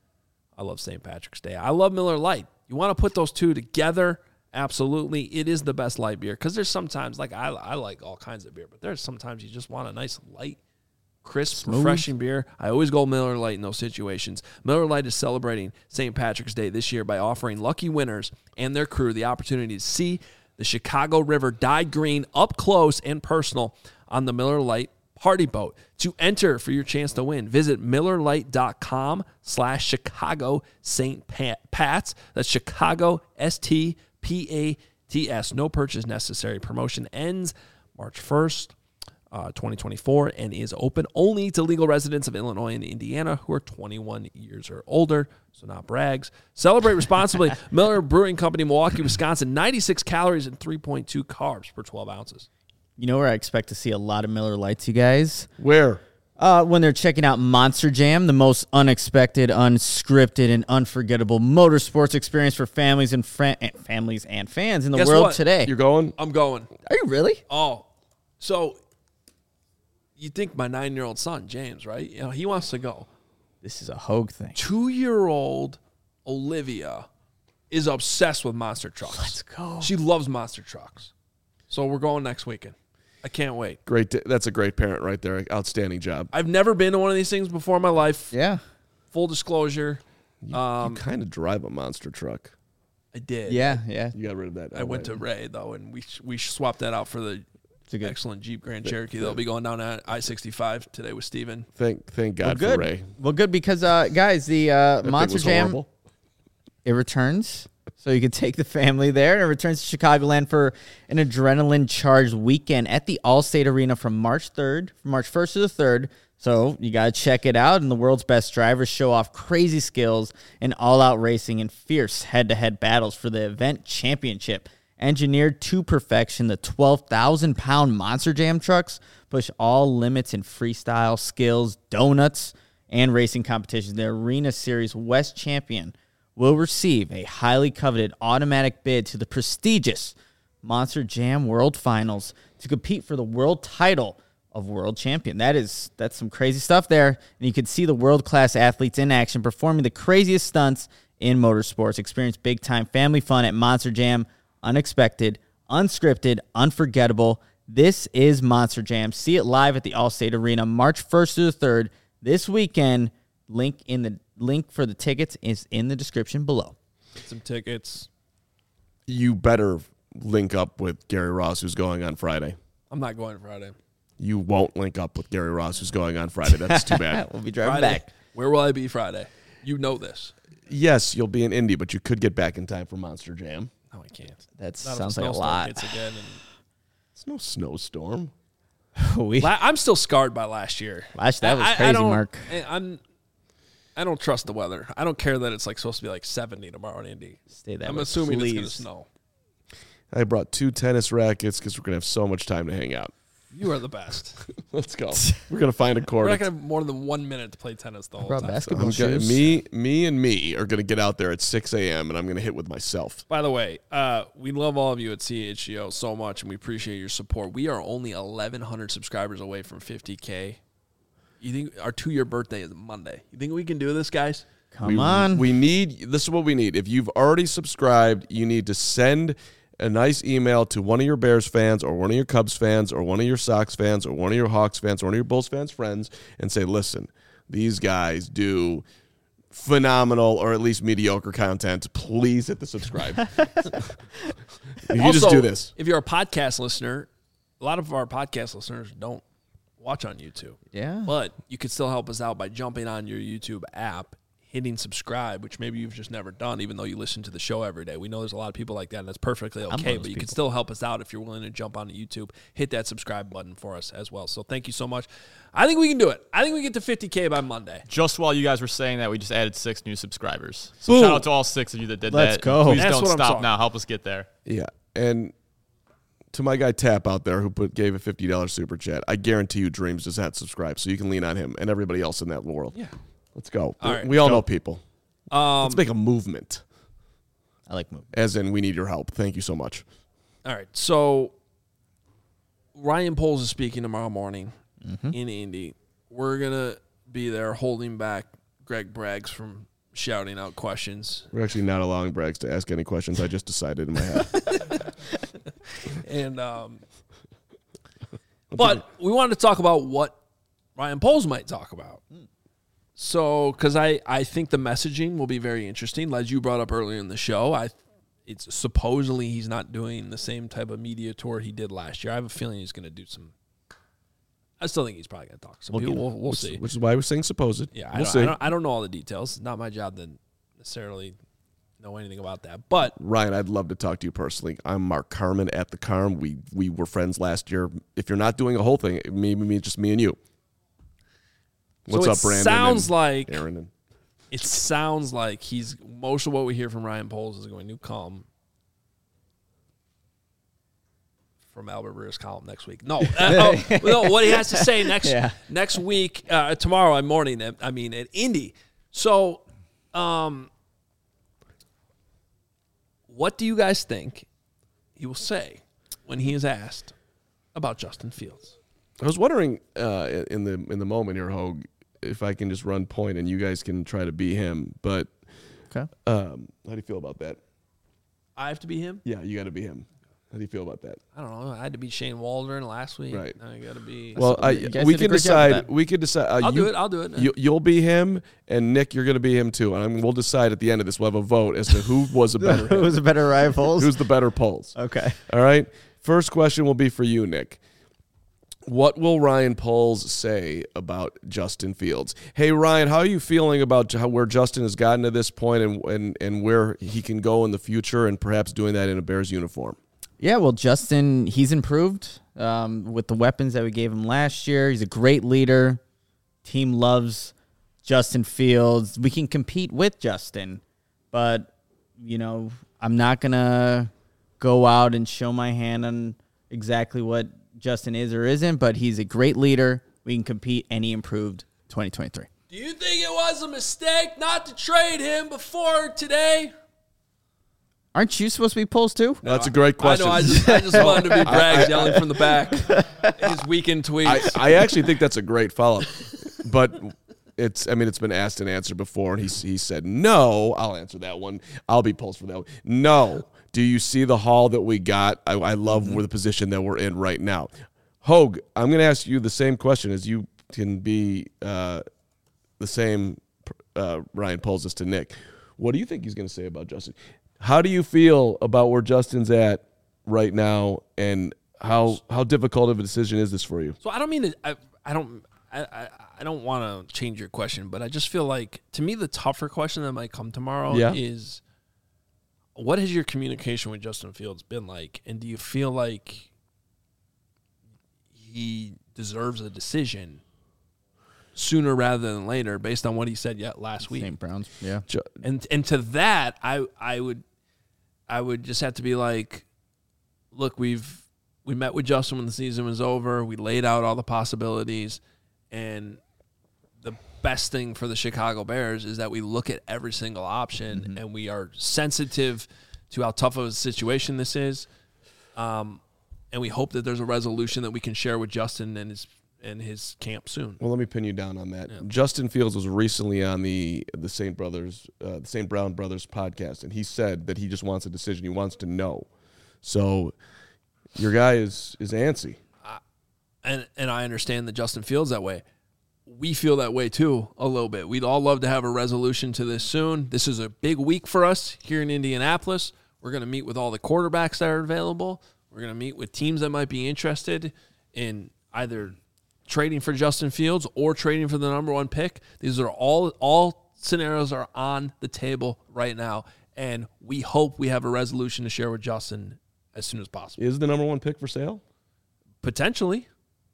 I love Saint Patrick's Day. I love Miller Lite. You want to put those two together? Absolutely. It is the best light beer because there's sometimes, like I, I like all kinds of beer, but there's sometimes you just want a nice light, crisp, Smooth. refreshing beer. I always go Miller Lite in those situations. Miller Lite is celebrating Saint Patrick's Day this year by offering lucky winners and their crew the opportunity to see the Chicago River dyed green up close and personal on the Miller Lite Party Boat. To enter for your chance to win, visit MillerLite.com slash Chicago Saint Pats. That's Chicago S T P A T S. No purchase necessary. Promotion ends March first, uh, twenty twenty-four, and is open only to legal residents of Illinois and Indiana who are twenty-one years or older, so not brags. Celebrate responsibly. Miller Brewing Company, Milwaukee, Wisconsin. ninety-six calories and three point two carbs per twelve ounces. You know where I expect to see a lot of Miller Lights, you guys? Where? Uh, when they're checking out Monster Jam, the most unexpected, unscripted, and unforgettable motorsports experience for families and, fra- and families and fans in the Guess world what? today. You're going? I'm going. Are you really? Oh, so you think my nine-year-old son, James, right? You know, he wants to go. This is a Hogue thing. Two-year-old Olivia is obsessed with monster trucks. Let's go. She loves monster trucks. So we're going next weekend. I can't wait. Great. t- That's a great parent right there. Outstanding job. I've never been to one of these things before in my life. Yeah. Full discussion. You, Um, you kind of drive a monster truck. I did. Yeah, yeah. You got rid of that. I went to Ray, though, and we we swapped that out for the It's a good. excellent Jeep Grand Cherokee. They'll be going down I sixty-five today with Steven. Thank thank Well, God good. for Ray. Well, good because, uh, guys, the uh, That thing Monster was Jam, horrible. it returns. So you can take the family there, and it returns to Chicagoland for an adrenaline-charged weekend at the Allstate Arena from March third, from March first to the third. So you got to check it out. And the world's best drivers show off crazy skills and all-out racing and fierce head-to-head battles for the event championship. Engineered to perfection, the twelve thousand pound Monster Jam trucks push all limits in freestyle, skills, donuts, and racing competitions. The Arena Series West champion will receive a highly coveted automatic bid to the prestigious Monster Jam World Finals to compete for the world title of world champion. That is, that's some crazy stuff there. And you can see the world-class athletes in action performing the craziest stunts in motorsports. Experience big-time family fun at Monster Jam. Unexpected, unscripted, unforgettable. This is Monster Jam. See it live at the Allstate Arena March first through the third this weekend. Link in the link for the tickets is in the description below. Some tickets. You better link up with Gary Ross, who's going on Friday. I'm not going Friday. You won't link up with Gary Ross, who's going on Friday. That's too bad. We'll be driving Friday. back. Where will I be Friday? You know this. Yes, you'll be in Indy, but you could get back in time for Monster Jam. No, I can't. That Not if sounds the like a snowstorm lot. hits again and It's no snowstorm. we, La- I'm still scarred by last year. Last- that was I- I- I crazy, don't- Mark. I- I'm. I don't trust the weather. I don't care that it's like supposed to be like seventy tomorrow in Indy. Stay that I'm way, assuming it's please. going to snow. I brought two tennis rackets because we're going to have so much time to hang out. You are the best. Let's go. We're going to find a We're court. not going to have more than one minute to play tennis the whole brought time. basketball I'm gonna, shoes. me, me and me are going to get out there at six a.m. and I'm going to hit with myself. By the way, uh, we love all of you at C H G O so much, and we appreciate your support. We are only eleven hundred subscribers away from fifty K. You think our two-year birthday is Monday? You think we can do this, guys? Come we, on. We need, this is what we need. If you've already subscribed, you need to send a nice email to one of your Bears fans or one of your Cubs fans or one of your Sox fans or one of your Hawks fans or one of your Bulls fans friends and say, listen, these guys do phenomenal or at least mediocre content. Please hit the subscribe. you also, just do this. If you're a podcast listener, a lot of our podcast listeners don't watch on YouTube. Yeah. But you can still help us out by jumping on your YouTube app, hitting subscribe, which maybe you've just never done, even though you listen to the show every day. We know there's a lot of people like that, and that's perfectly one okay, of but those you can people. still help us out if you're willing to jump onto YouTube. Hit that subscribe button for us as well. So thank you so much. I think we can do it. I think we get to fifty K by Monday. Just while you guys were saying that, we just added six new subscribers. So Boom. shout out to all six of you that did Let's that. go. Please That's don't what I'm stop talking now. Help us get there. Yeah. And to my guy Tap out there who put gave a fifty dollars super chat, I guarantee you Dreams does not subscribe, so you can lean on him and everybody else in that world. Yeah. Let's go. All we, right. we all Go. know people. Um, Let's make a movement. I like moving. As in, we need your help. Thank you so much. all right. So Ryan Poles is speaking tomorrow morning Mm-hmm. in Indy. We're going to be there holding back Greg Braggs from shouting out questions. We're actually not allowing Braggs to ask any questions. I just decided in my head. And um, but we wanted to talk about what Ryan Poles might talk about. So, because I, I think the messaging will be very interesting. As you brought up earlier in the show, I it's supposedly he's not doing the same type of media tour he did last year. I have a feeling he's going to do some. I still think he's probably going to talk to some We'll people. get- We'll, we'll which, see. Which is why I was saying supposed. Yeah, I, we'll don't, see. I, don't, I don't know all the details. It's not my job to necessarily know anything about that. But Ryan, I'd love to talk to you personally. I'm Mark Carmen at the Carm. We we were friends last year. If you're not doing a whole thing, maybe me, just me and you. What's so up, it Brandon? sounds and like Aaron. And, it sounds like he's most of what we hear from Ryan Poles is going to come from Albert Breer's column next week. No, uh, oh, no, what he has to say next Yeah. next week, uh, tomorrow morning. At, I mean, at Indy. So, um, what do you guys think he will say when he is asked about Justin Fields? I was wondering uh, in the in the moment here, Hogue, if I can just run point and you guys can try to be him. But Okay. um, how do you feel about that? I have to be him. Yeah, you got to be him. How do you feel about that? I don't know. I had to be Shane Waldron last week. Right. Now I got to be. Well, I, you guys we did a can great job with decide. that. We could decide. Uh, I'll you, do it. I'll do it. You, you'll be him, and Nick, you're going to be him too. And we'll decide at the end of this. We'll have a vote as to who was a better. Who was a better rivals? Who's the better polls? Okay. All right. First question will be for you, Nick. What will Ryan Poles say about Justin Fields? Hey, Ryan, how are you feeling about how, where Justin has gotten to this point and, and, and where he can go in the future and perhaps doing that in a Bears uniform? Yeah, well, Justin, he's improved um, with the weapons that we gave him last year. He's a great leader. team loves Justin Fields. We can compete with Justin, but, you know, I'm not going to go out and show my hand on exactly what Justin is or isn't, but he's a great leader. We can compete, and he improved twenty twenty-three. Do you think it was a mistake not to trade him before today? Aren't you supposed to be Poles too? No, that's a great question. I know. I just, I just wanted to be Braggs yelling from the back. His weekend tweets. I, I actually think that's a great follow-up, but it's. I mean, it's been asked and answered before, and he he said no. I'll answer that one. I'll be Poles for that one. No. Do you see the haul that we got? I, I love mm-hmm. the position that we're in right now. Hogue, I'm going to ask you the same question as you can be uh, the same. Uh, Ryan Poles us to Nick. What do you think he's going to say about Justin? How do you feel about where Justin's at right now, and how how difficult of a decision is this for you? So I don't mean to, I I don't I, I, I don't want to change your question, but I just feel like, to me, the tougher question that might come tomorrow yeah. is, what has your communication with Justin Fields been like, and do you feel like he deserves a decision sooner rather than later, based on what he said yet last week? Saint Browns, yeah. And and to that, I I would I would just have to be like, look, we've we met with Justin when the season was over. We laid out all the possibilities, and the best thing for the Chicago Bears is that we look at every single option, mm-hmm. and we are sensitive to how tough of a situation this is. Um, and we hope that there's a resolution that we can share with Justin and his and his camp soon. Well, let me pin you down on that. Yeah. Justin Fields was recently on the the Saint Brothers, uh, the Saint Brown Brothers podcast, and he said that he just wants a decision. He wants to know. So your guy is is antsy, uh, and and I understand that Justin Fields that way. We feel that way too a little bit. We'd all love to have a resolution to this soon. This is a big week for us here in Indianapolis. We're going to meet with all the quarterbacks that are available. We're going to meet with teams that might be interested in either trading for Justin Fields or trading for the number one pick. These are all all scenarios are on the table right now, and we hope we have a resolution to share with Justin as soon as possible. Is the number one pick for sale? Potentially.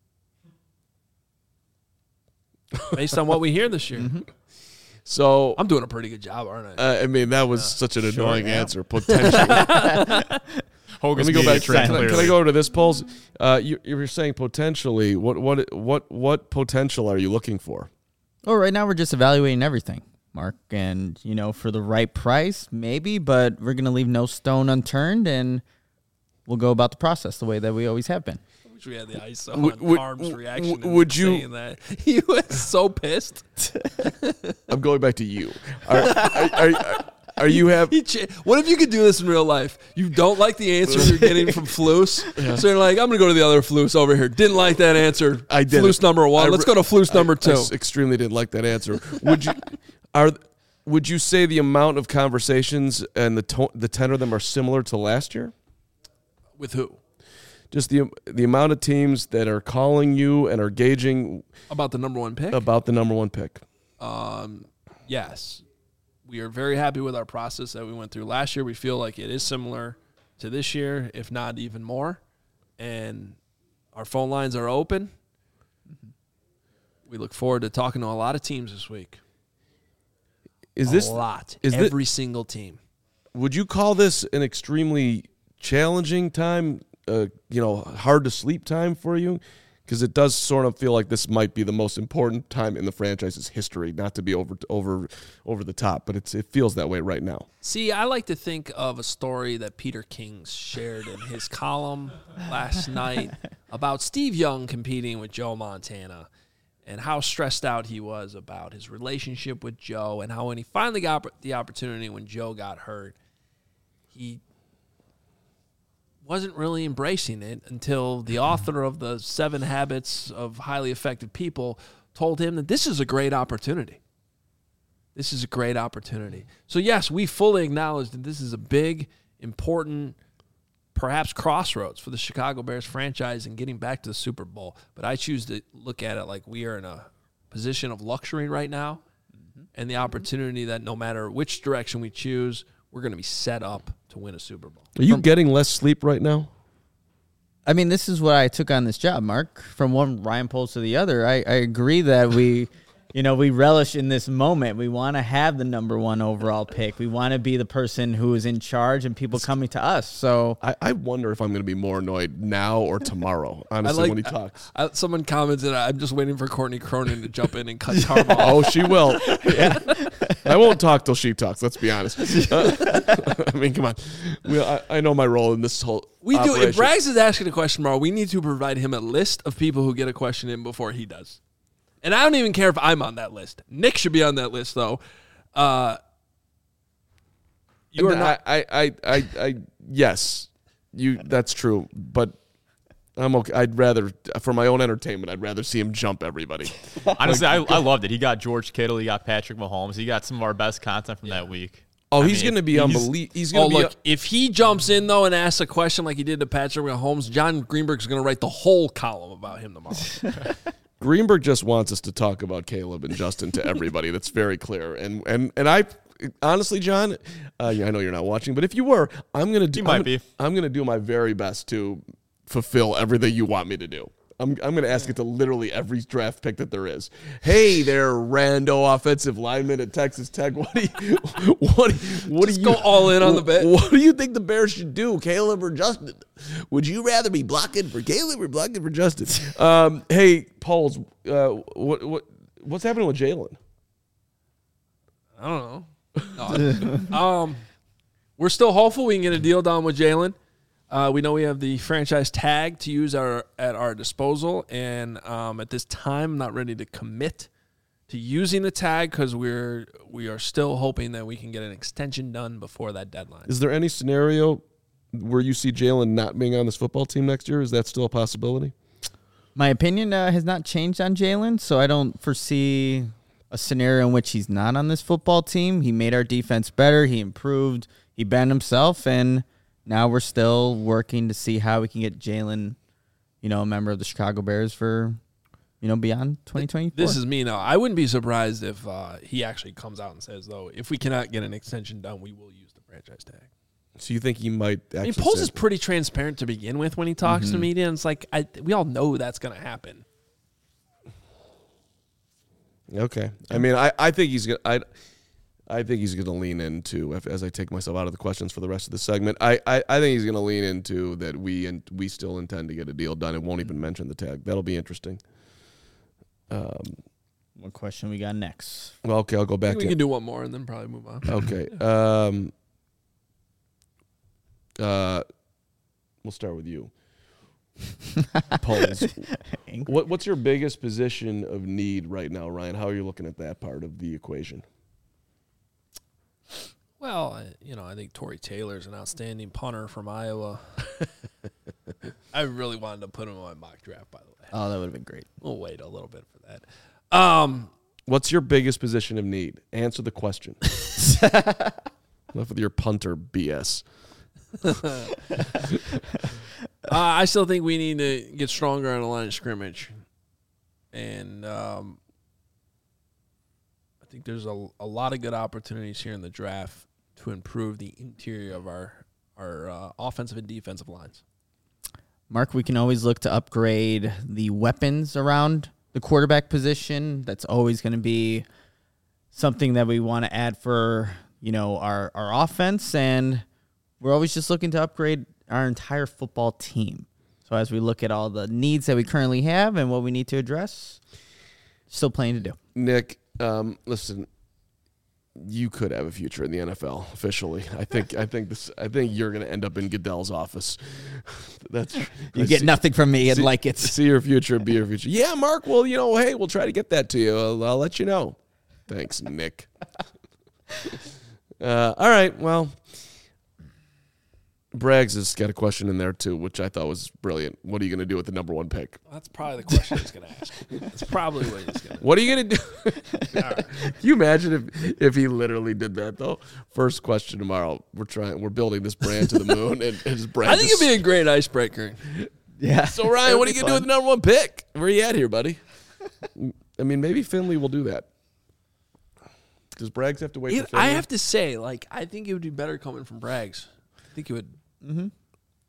Based on what we hear this year. Mm-hmm. So I'm doing a pretty good job, aren't I? Uh, I mean, that was yeah. such an Sure, annoying yeah. answer. Potentially. Let me go back. Can I, can I go over to this, Poles? Uh, you, you were saying potentially. What what what what potential are you looking for? Well, right now we're just evaluating everything, Mark, and you know, for the right price, maybe, but we're gonna leave no stone unturned, and we'll go about the process the way that we always have been. I wish we had the I S O Would- on would- Carm's reaction. w- would you- saying that. He was so pissed. I'm going back to you. Are, are, are, are you have? He ch- what if you could do this in real life? You don't like the answer you're getting from Flus, so you're like, I'm going to go to the other Flus over here. Didn't like that answer. I did. Flus number one. I Let's re- go to Flus number I, two. I s- extremely didn't like that answer. Would you? Are would you say the amount of conversations and the to- the tenor of them are similar to last year? With who? Just the the amount of teams that are calling you and are gauging About the number one pick? about the number one pick. Um, yes. We are very happy with our process that we went through last year. We feel like it is similar to this year, if not even more. And our phone lines are open. We look forward to talking to a lot of teams this week. Is a this lot? Is Every thi- single team. Would you call this an extremely challenging time? Uh, you know, hard to sleep time for you? Because it does sort of feel like this might be the most important time in the franchise's history. Not to be over over over the top, but it's it feels that way right now. See, I like to think of a story that Peter King shared in his column last night about Steve Young competing with Joe Montana and how stressed out he was about his relationship with Joe, and how when he finally got the opportunity when Joe got hurt, he wasn't really embracing it until the author of the Seven Habits of Highly Effective People told him that this is a great opportunity. This is a great opportunity. So, yes, we fully acknowledge that this is a big, important, perhaps crossroads for the Chicago Bears franchise in getting back to the Super Bowl. But I choose to look at it like we are in a position of luxury right now, mm-hmm. and the opportunity that no matter which direction we choose, we're going to be set up to win a Super Bowl. Are you From, getting less sleep right now? I mean, this is what I took on this job, Mark. From one Ryan Poles to the other, I, I agree that we, you know, we relish in this moment. We want to have the number one overall pick. We want to be the person who is in charge and people coming to us. So I, I wonder if I'm going to be more annoyed now or tomorrow, honestly, like- when he talks. I, someone commented, I'm just waiting for Courtney Cronin to jump in and cut Harbaugh. Oh, she will. Yeah. I won't talk till she talks, let's be honest. Uh, I mean, come on. We, I, I know my role in this whole We do. operation. If Braggs is asking a question tomorrow, we need to provide him a list of people who get a question in before he does. And I don't even care if I'm on that list. Nick should be on that list, though. Uh, you are And not. I, I, I, I, yes, you. That's true. But I'm okay. I'd rather, for my own entertainment, I'd rather see him jump everybody. Honestly, I, I loved it. He got George Kittle. He got Patrick Mahomes. He got some of our best content from that week. Oh, I he's mean, going to be he's- unbelievable. He's Oh, going to be. look, if he jumps in, though, and asks a question like he did to Patrick Mahomes, John Greenberg's going to write the whole column about him tomorrow. Greenberg just wants us to talk about Caleb and Justin to everybody. That's very clear. And and and I honestly, John, uh, yeah, I know you're not watching, but if you were, I'm gonna do. You might I'm, be. I'm gonna do my very best to fulfill everything you want me to do. I'm I'm gonna ask it to literally every draft pick that there is. Hey there, rando offensive lineman at Texas Tech. What do you what what Just do you go all in on the bet. What do you think the Bears should do, Caleb or Justin? Would you rather be blocking for Caleb or blocking for Justin? Um, hey, Pauls, uh, what what what's happening with Jalen? I don't know. No. um, we're still hopeful we can get a deal done with Jalen. Uh, we know we have the franchise tag to use our at our disposal, and um, at this time, I'm not ready to commit to using the tag because we're we are still hoping that we can get an extension done before that deadline. Is there any scenario where you see Jalen not being on this football team next year? Is that still a possibility? my opinion uh, has not changed on Jalen, so I don't foresee a scenario in which he's not on this football team. He made our defense better. He improved. He banned himself, and now we're still working to see how we can get Jalen, you know, a member of the Chicago Bears for, you know, beyond twenty twenty-four. This is me now. I wouldn't be surprised if uh, he actually comes out and says, though, if we cannot get an extension done, we will use the franchise tag. So you think he might actually I mean, Poles say- is pretty transparent to begin with when he talks Mm-hmm. to media, and it's like, I, we all know that's going to happen. Okay. I mean, I, I think he's gonna I, I think he's gonna lean into if, as I take myself out of the questions for the rest of the segment. I, I, I think he's gonna lean into that we and we still intend to get a deal done and won't even mention the tag. That'll be interesting. Um. What question we got next? Well, okay, I'll go I back think we to can do one more and then probably move on. okay. Um. Uh, we'll start with you. Polls. What what's your biggest position of need right now, Ryan? How are you looking at that part of the equation? Well, I, you know, I think Torrey Taylor's an outstanding punter from Iowa. I really wanted to put him in my mock draft, by the way. Oh, that would have been great. We'll wait a little bit for that. Um, What's your biggest position of need? Answer the question. Enough with your punter B S. uh, I still think we need to get stronger on the line of scrimmage. And um, I think there's a, a lot of good opportunities here in the draft to improve the interior of our, our uh, offensive and defensive lines. Mark, we can always look to upgrade the weapons around the quarterback position. That's always going to be something that we want to add for, you know, our, our offense. And we're always just looking to upgrade our entire football team. So as we look at all the needs that we currently have and what we need to address, still plenty to do. Nick, um, listen, you could have a future in the N F L officially. I think. I think this. I think you're going to end up in Goodell's office. That's You I get see- nothing from me and see- like it. See your future, be your future. Yeah, Mark. Well, you know, hey, we'll try to get that to you. I'll, I'll let you know. Thanks, Nick. uh, all right. Well, Braggs has got a question in there too, which I thought was brilliant. What are you going to do with the number one pick? That's probably the question he's going to ask. That's probably what he's going to What are you going to do? Can you imagine if, if he literally did that though? First question tomorrow. We're trying. We're building this brand to the moon, and his brand. I think it'd be a great icebreaker. Yeah. So Ryan, what are you going to do with the number one pick? Where are you at here, buddy? I mean, maybe Finley will do that. Does Braggs have to wait It- for Finley? I have to say, like, I think it would be better coming from Braggs. I think it would.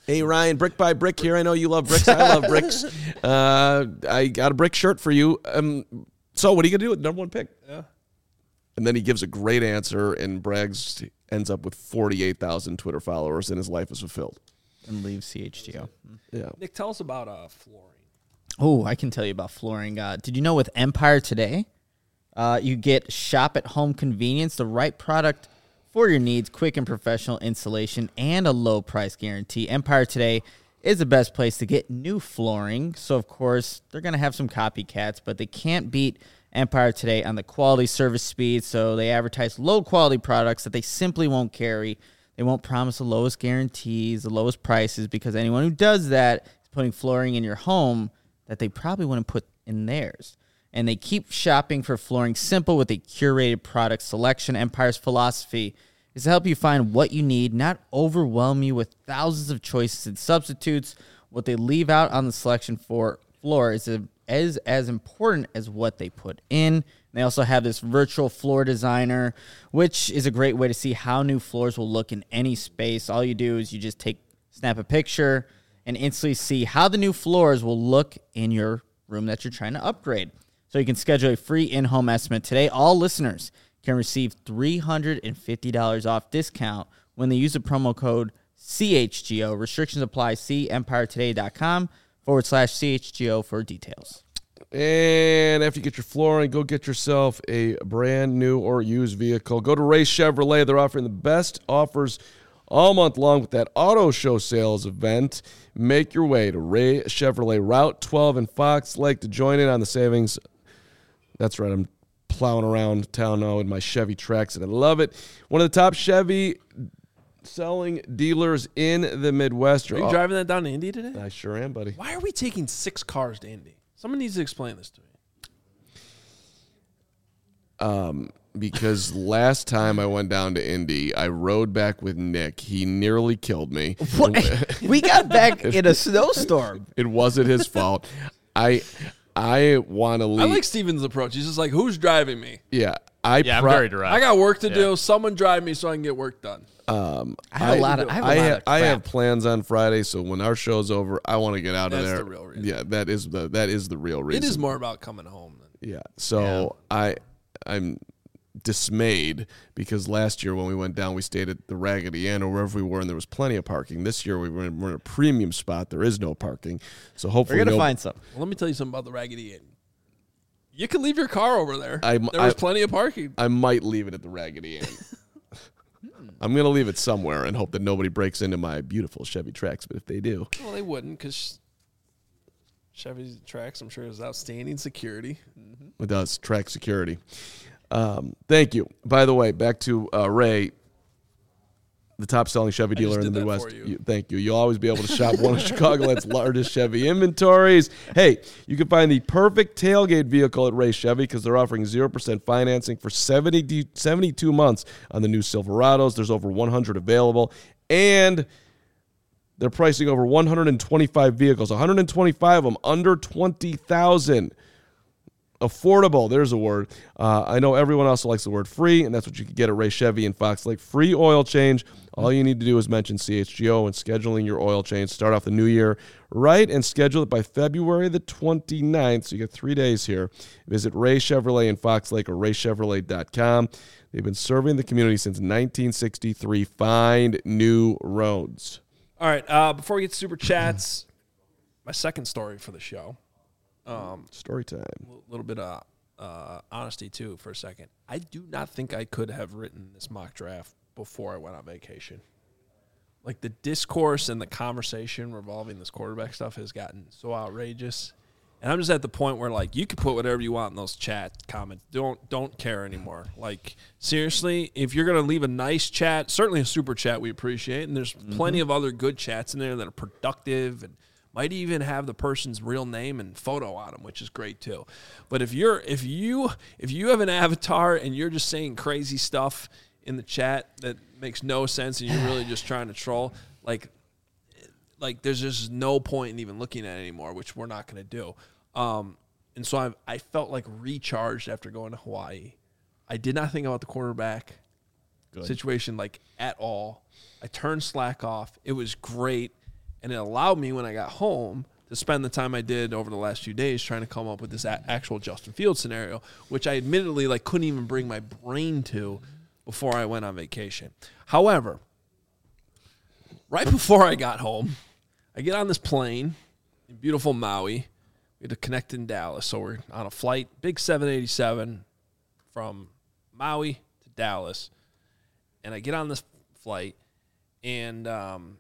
Hey, Ryan, brick by brick here. I know you love bricks. I love bricks. Uh, I got a brick shirt for you. Um, so what are you going to do with the number one pick? Yeah. And then he gives a great answer, and brags ends up with forty-eight thousand Twitter followers, and his life is fulfilled. And leave C H G O. Yeah. Nick, tell us about uh, flooring. Oh, I can tell you about flooring. Uh, did you know with Empire Today, uh, you get shop at home convenience, the right product for your needs, quick and professional installation, and a low price guarantee. Empire Today is the best place to get new flooring. So, of course, they're going to have some copycats, but they can't beat Empire Today on the quality, service, speed. So they advertise low quality products that they simply won't carry. They won't promise the lowest guarantees, the lowest prices, because anyone who does that is putting flooring in your home that they probably wouldn't put in theirs. And they keep shopping for flooring simple with a curated product selection. Empire's philosophy is to help you find what you need, not overwhelm you with thousands of choices and substitutes. What they leave out on the selection for floor is, a, is as important as what they put in. They also have this virtual floor designer, which is a great way to see how new floors will look in any space. All you do is you just take, snap a picture and instantly see how the new floors will look in your room that you're trying to upgrade. So you can schedule a free in-home estimate today. All listeners can receive three hundred fifty dollars off discount when they use the promo code C H G O. Restrictions apply. See empiretoday.com forward slash CHGO for details. And after you get your flooring, go get yourself a brand new or used vehicle. Go to Ray Chevrolet. They're offering the best offers all month long with that auto show sales event. Make your way to Ray Chevrolet Route twelve in Fox Lake to join in on the savings. That's right. I'm plowing around town now in my Chevy Trax, and I love it. One of the top Chevy selling dealers in the Midwest. Are you driving that down to Indy today? I sure am, buddy. Why are we taking six cars to Indy? Someone needs to explain this to me. Um, because last time I went down to Indy, I rode back with Nick. He nearly killed me. What? We got back in a snowstorm. It wasn't his fault. I I want to leave. I like Steven's approach. He's just like, who's driving me? Yeah, I Yeah, I'm pro- very direct. I got work to Yeah. do. Someone drive me so I can get work done. Um, I have a lot of. I have a I, lot ha- of I have crap. plans on Friday, so when our show's over, I want to get out That's of there. the real reason. Yeah, that is the that is the real reason. It is more about coming home. Than Yeah. So I I'm dismayed because last year when we went down, we stayed at the Raggedy Inn or wherever we were, and there was plenty of parking. This year we were in, we're in a premium spot. There is no parking, so hopefully We're gonna no- find some. Well, let me tell you something about the Raggedy Inn. You can leave your car over there. I'm- there was I- plenty of parking. I might leave it at the Raggedy Inn. I'm gonna leave it somewhere and hope that nobody breaks into my beautiful Chevy Trax. But if they do, Well, they wouldn't because Chevy Trax, I'm sure, is outstanding security. it does track security. Um, thank you. By the way, back to uh, Ray, the top selling Chevy dealer just in the did that Midwest. for you. You, thank you. You'll always be able to shop one of Chicagoland's largest Chevy inventories. Hey, you can find the perfect tailgate vehicle at Ray Chevy because they're offering zero percent financing for seventy, seventy-two months on the new Silverados. There's over one hundred available, and they're pricing over one hundred twenty-five vehicles, one hundred twenty-five of them under twenty thousand dollars. Affordable, there's a word. Uh, I know everyone also likes the word free, and that's what you can get at Ray Chevy in Fox Lake. Free oil change. All you need to do is mention C H G O when scheduling your oil change. Start off the new year right and schedule it by February the twenty-ninth. So you got three days here. Visit Ray Chevrolet in Fox Lake or ray chevrolet dot com. They've been serving the community since nineteen sixty-three. Find new roads. All right. Uh, before we get to Super Chats, my second story for the show. Um, Story time. A little bit of uh, honesty, too, for a second. I do not think I could have written this mock draft before I went on vacation. Like, the discourse and the conversation revolving this quarterback stuff has gotten so outrageous. And I'm just at the point where, like, you can put whatever you want in those chat comments. Don't don't care anymore. Like, seriously, if you're going to leave a nice chat, certainly a super chat we appreciate, and there's mm-hmm. plenty of other good chats in there that are productive and might even have the person's real name and photo on them, which is great too. But if you're if you if you have an avatar and you're just saying crazy stuff in the chat that makes no sense and you're really just trying to troll, like like there's just no point in even looking at it anymore, which we're not going to do. Um, and so I I felt like recharged after going to Hawaii. I did not think about the quarterback Good. situation like at all. I turned Slack off. It was great. And it allowed me, when I got home, to spend the time I did over the last few days trying to come up with this a- actual Justin Fields scenario, which I admittedly like couldn't even bring my brain to before I went on vacation. However, right before I got home, I get on this plane in beautiful Maui. We had to connect in Dallas, so we're on a flight, big seven eighty-seven from Maui to Dallas. And I get on this flight, and um,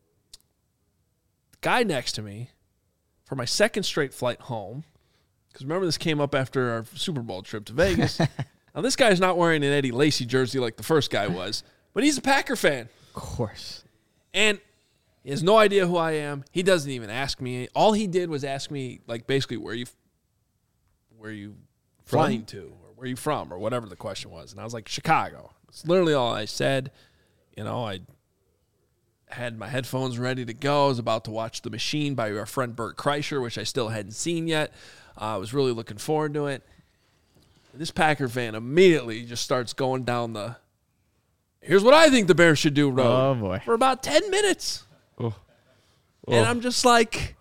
the guy next to me, for my second straight flight home, because remember this came up after our Super Bowl trip to Vegas. Now, this guy's not wearing an Eddie Lacy jersey like the first guy was, but he's a Packer fan. Of course. And he has no idea who I am. He doesn't even ask me. All he did was ask me, like, basically, where you where you flying to, or where you from, or whatever the question was. And I was like, Chicago. It's literally all I said. You know, I had my headphones ready to go. I was about to watch The Machine by our friend Bert Kreischer, which I still hadn't seen yet. Uh, I was really looking forward to it. And this Packer fan immediately just starts going down the, here's what I think the Bears should do road. Oh, boy. For about ten minutes. Oh. And I'm just like,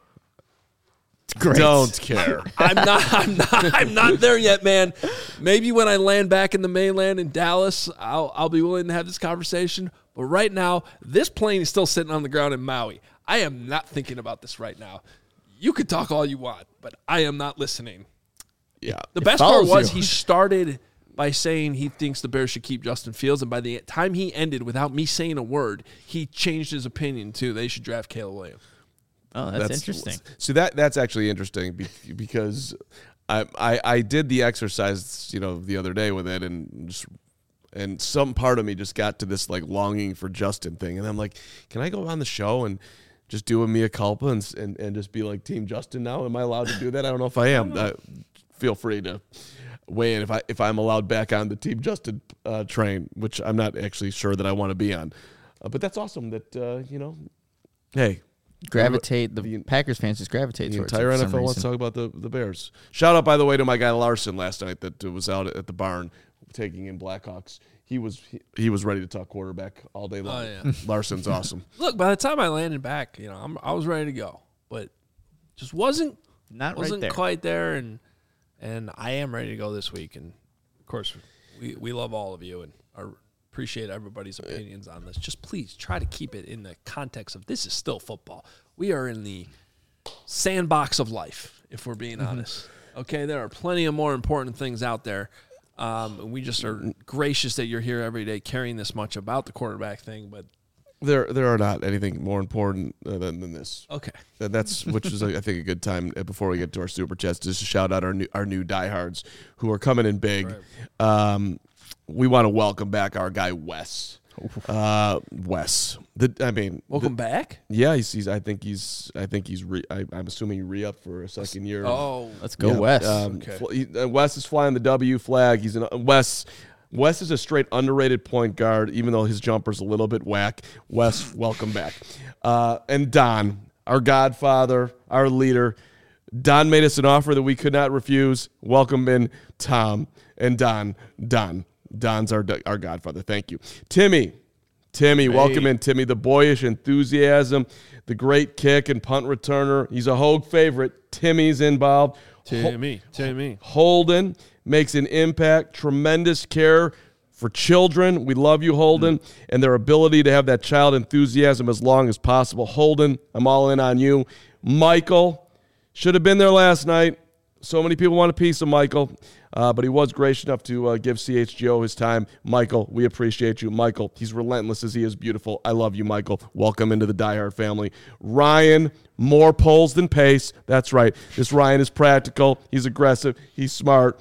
Great. Don't care. I'm not, I'm not, I'm not there yet, man. Maybe when I land back in the mainland in Dallas, I'll, I'll be willing to have this conversation. But right now, this plane is still sitting on the ground in Maui. I am not thinking about this right now. You could talk all you want, but I am not listening. Yeah. The best part follows was you. he started by saying he thinks the Bears should keep Justin Fields, and by the time he ended, without me saying a word, he changed his opinion too. They should draft Caleb Williams. Oh, that's, interesting. So that that's actually interesting be- because I, I I did the exercise, you know, the other day with it, and just, and some part of me just got to this like longing for Justin thing, and I'm like, can I go on the show and just do a mea culpa and and, and just be like Team Justin now? Am I allowed to do that? I don't know if I am. I, feel free to weigh in if I if I'm allowed back on the Team Justin uh, train, which I'm not actually sure that I want to be on. Uh, but that's awesome that uh, you know, hey. Gravitate, the, The- Packers fans just gravitate The towards entire it for N F L some wants to reason. talk about the, the Bears. Shout out, by the way, to my guy Larson last night that was out at the barn taking in Blackhawks. He was he, he was ready to talk quarterback all day long. Oh, yeah. Larson's awesome. Look, by the time I landed back, you know, I'm, I was ready to go, but just wasn't Not right wasn't there. quite there, and and I am ready to go this week. And of course, we we love all of you and are, appreciate everybody's opinions on this. Just please try to keep it in the context of this is still football. We are in the sandbox of life, if we're being honest. Okay, there are plenty of more important things out there. Um, and we just are gracious that you're here every day caring this much about the quarterback thing. But There there are not anything more important uh, than, than this. okay, And that's which is I think a good time uh, before we get to our super chats just to shout out our new our new diehards who are coming in big. Right. Um, we want to welcome back our guy Wes. Uh, Wes. The, I mean, welcome the, back. Yeah, he's, he's. I think he's. I think he's. Re, I, I'm assuming re up for a second year. Oh, Let's go, Yeah, Wes. Um, Okay. fl- he, uh, Wes is flying the W flag. He's an Wes. Wes is a straight underrated point guard, even though his jumper's a little bit whack. Wes, welcome back. Uh, and Don, our godfather, our leader. Don made us an offer that we could not refuse. Welcome in Tom and Don. Don. Don's our our godfather. Thank you. Timmy. Timmy, welcome in. Timmy, the boyish enthusiasm, the great kick and punt returner. He's a Hogue favorite. Timmy's involved. Timmy, Timmy. Holden makes an impact, tremendous care for children. We love you, Holden, and their ability to have that child enthusiasm as long as possible. Holden, I'm all in on you. Michael should have been there last night. So many people want a piece of Michael, uh, but he was gracious enough to uh, give C H G O his time. Michael, we appreciate you. Michael, he's relentless as he is beautiful. I love you, Michael. Welcome into the Die Hard family. Ryan, more polls than pace. That's right. This Ryan is practical. He's aggressive. He's smart.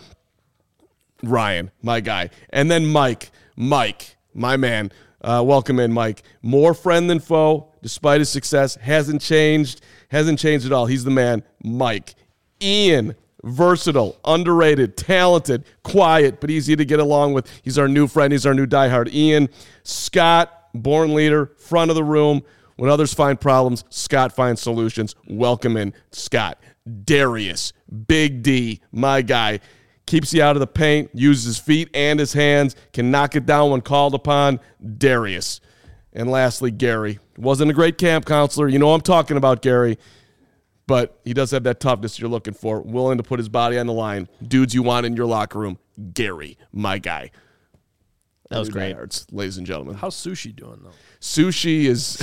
Ryan, my guy. And then Mike. Mike, my man. Uh, welcome in, Mike. More friend than foe, despite his success. Hasn't changed. Hasn't changed at all. He's the man. Mike. Ian. Versatile, underrated, talented, quiet, but easy to get along with. He's our new friend. He's our new diehard. Ian. Scott, born leader, front of the room. When others find problems, Scott finds solutions. Welcome in, Scott. Darius, Big D, my guy. Keeps you out of the paint, uses his feet and his hands, can knock it down when called upon. Darius. And lastly, Gary. Wasn't a great camp counselor. You know what I'm talking about, Gary. But he does have that toughness you're looking for, willing to put his body on the line. Dudes you want in your locker room. Gary, my guy. That was great. Diehards, ladies and gentlemen. How's Sushi doing, though? Sushi is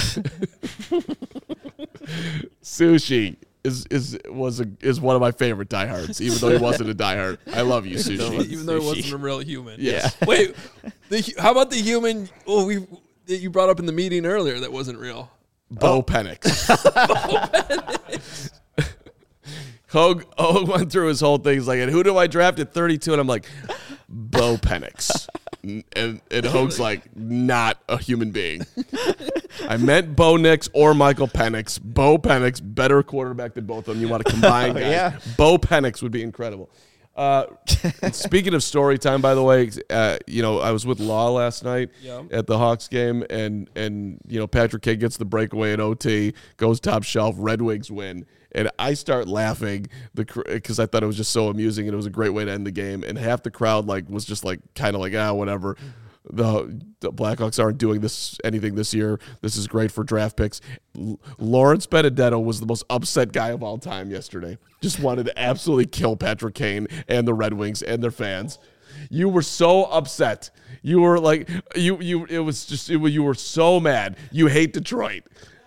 Sushi is is was a, is one of my favorite diehards, even though he wasn't a diehard. I love you, Sushi. Even though he wasn't a real human. Yeah. Wait, the, how about the human oh, we that you brought up in the meeting earlier that wasn't real? Bo oh. Penix. Hogue, Hogue went through his whole thing. He's like, and who do I draft at thirty-two? And I'm like, Bo Penix. And, and Hogue's like, not a human being. I meant Bo Nix or Michael Penix. Bo Penix, better quarterback than both of them. You want to combine guys. Yeah. Bo Penix would be incredible. Uh, speaking of story time, by the way, uh, you know, I was with Law last night yeah. at the Hawks game, and, and you know, Patrick Kane gets the breakaway at O T, goes top shelf, Red Wings win. And I start laughing because I thought it was just so amusing, and it was a great way to end the game. And half the crowd like was just like kind of like, ah, whatever. The, the Blackhawks aren't doing this anything this year. This is great for draft picks. L- Lawrence Benedetto was the most upset guy of all time yesterday. Just wanted to absolutely kill Patrick Kane and the Red Wings and their fans. You were so upset. You were like, you you. It was just it, you were so mad. You hate Detroit.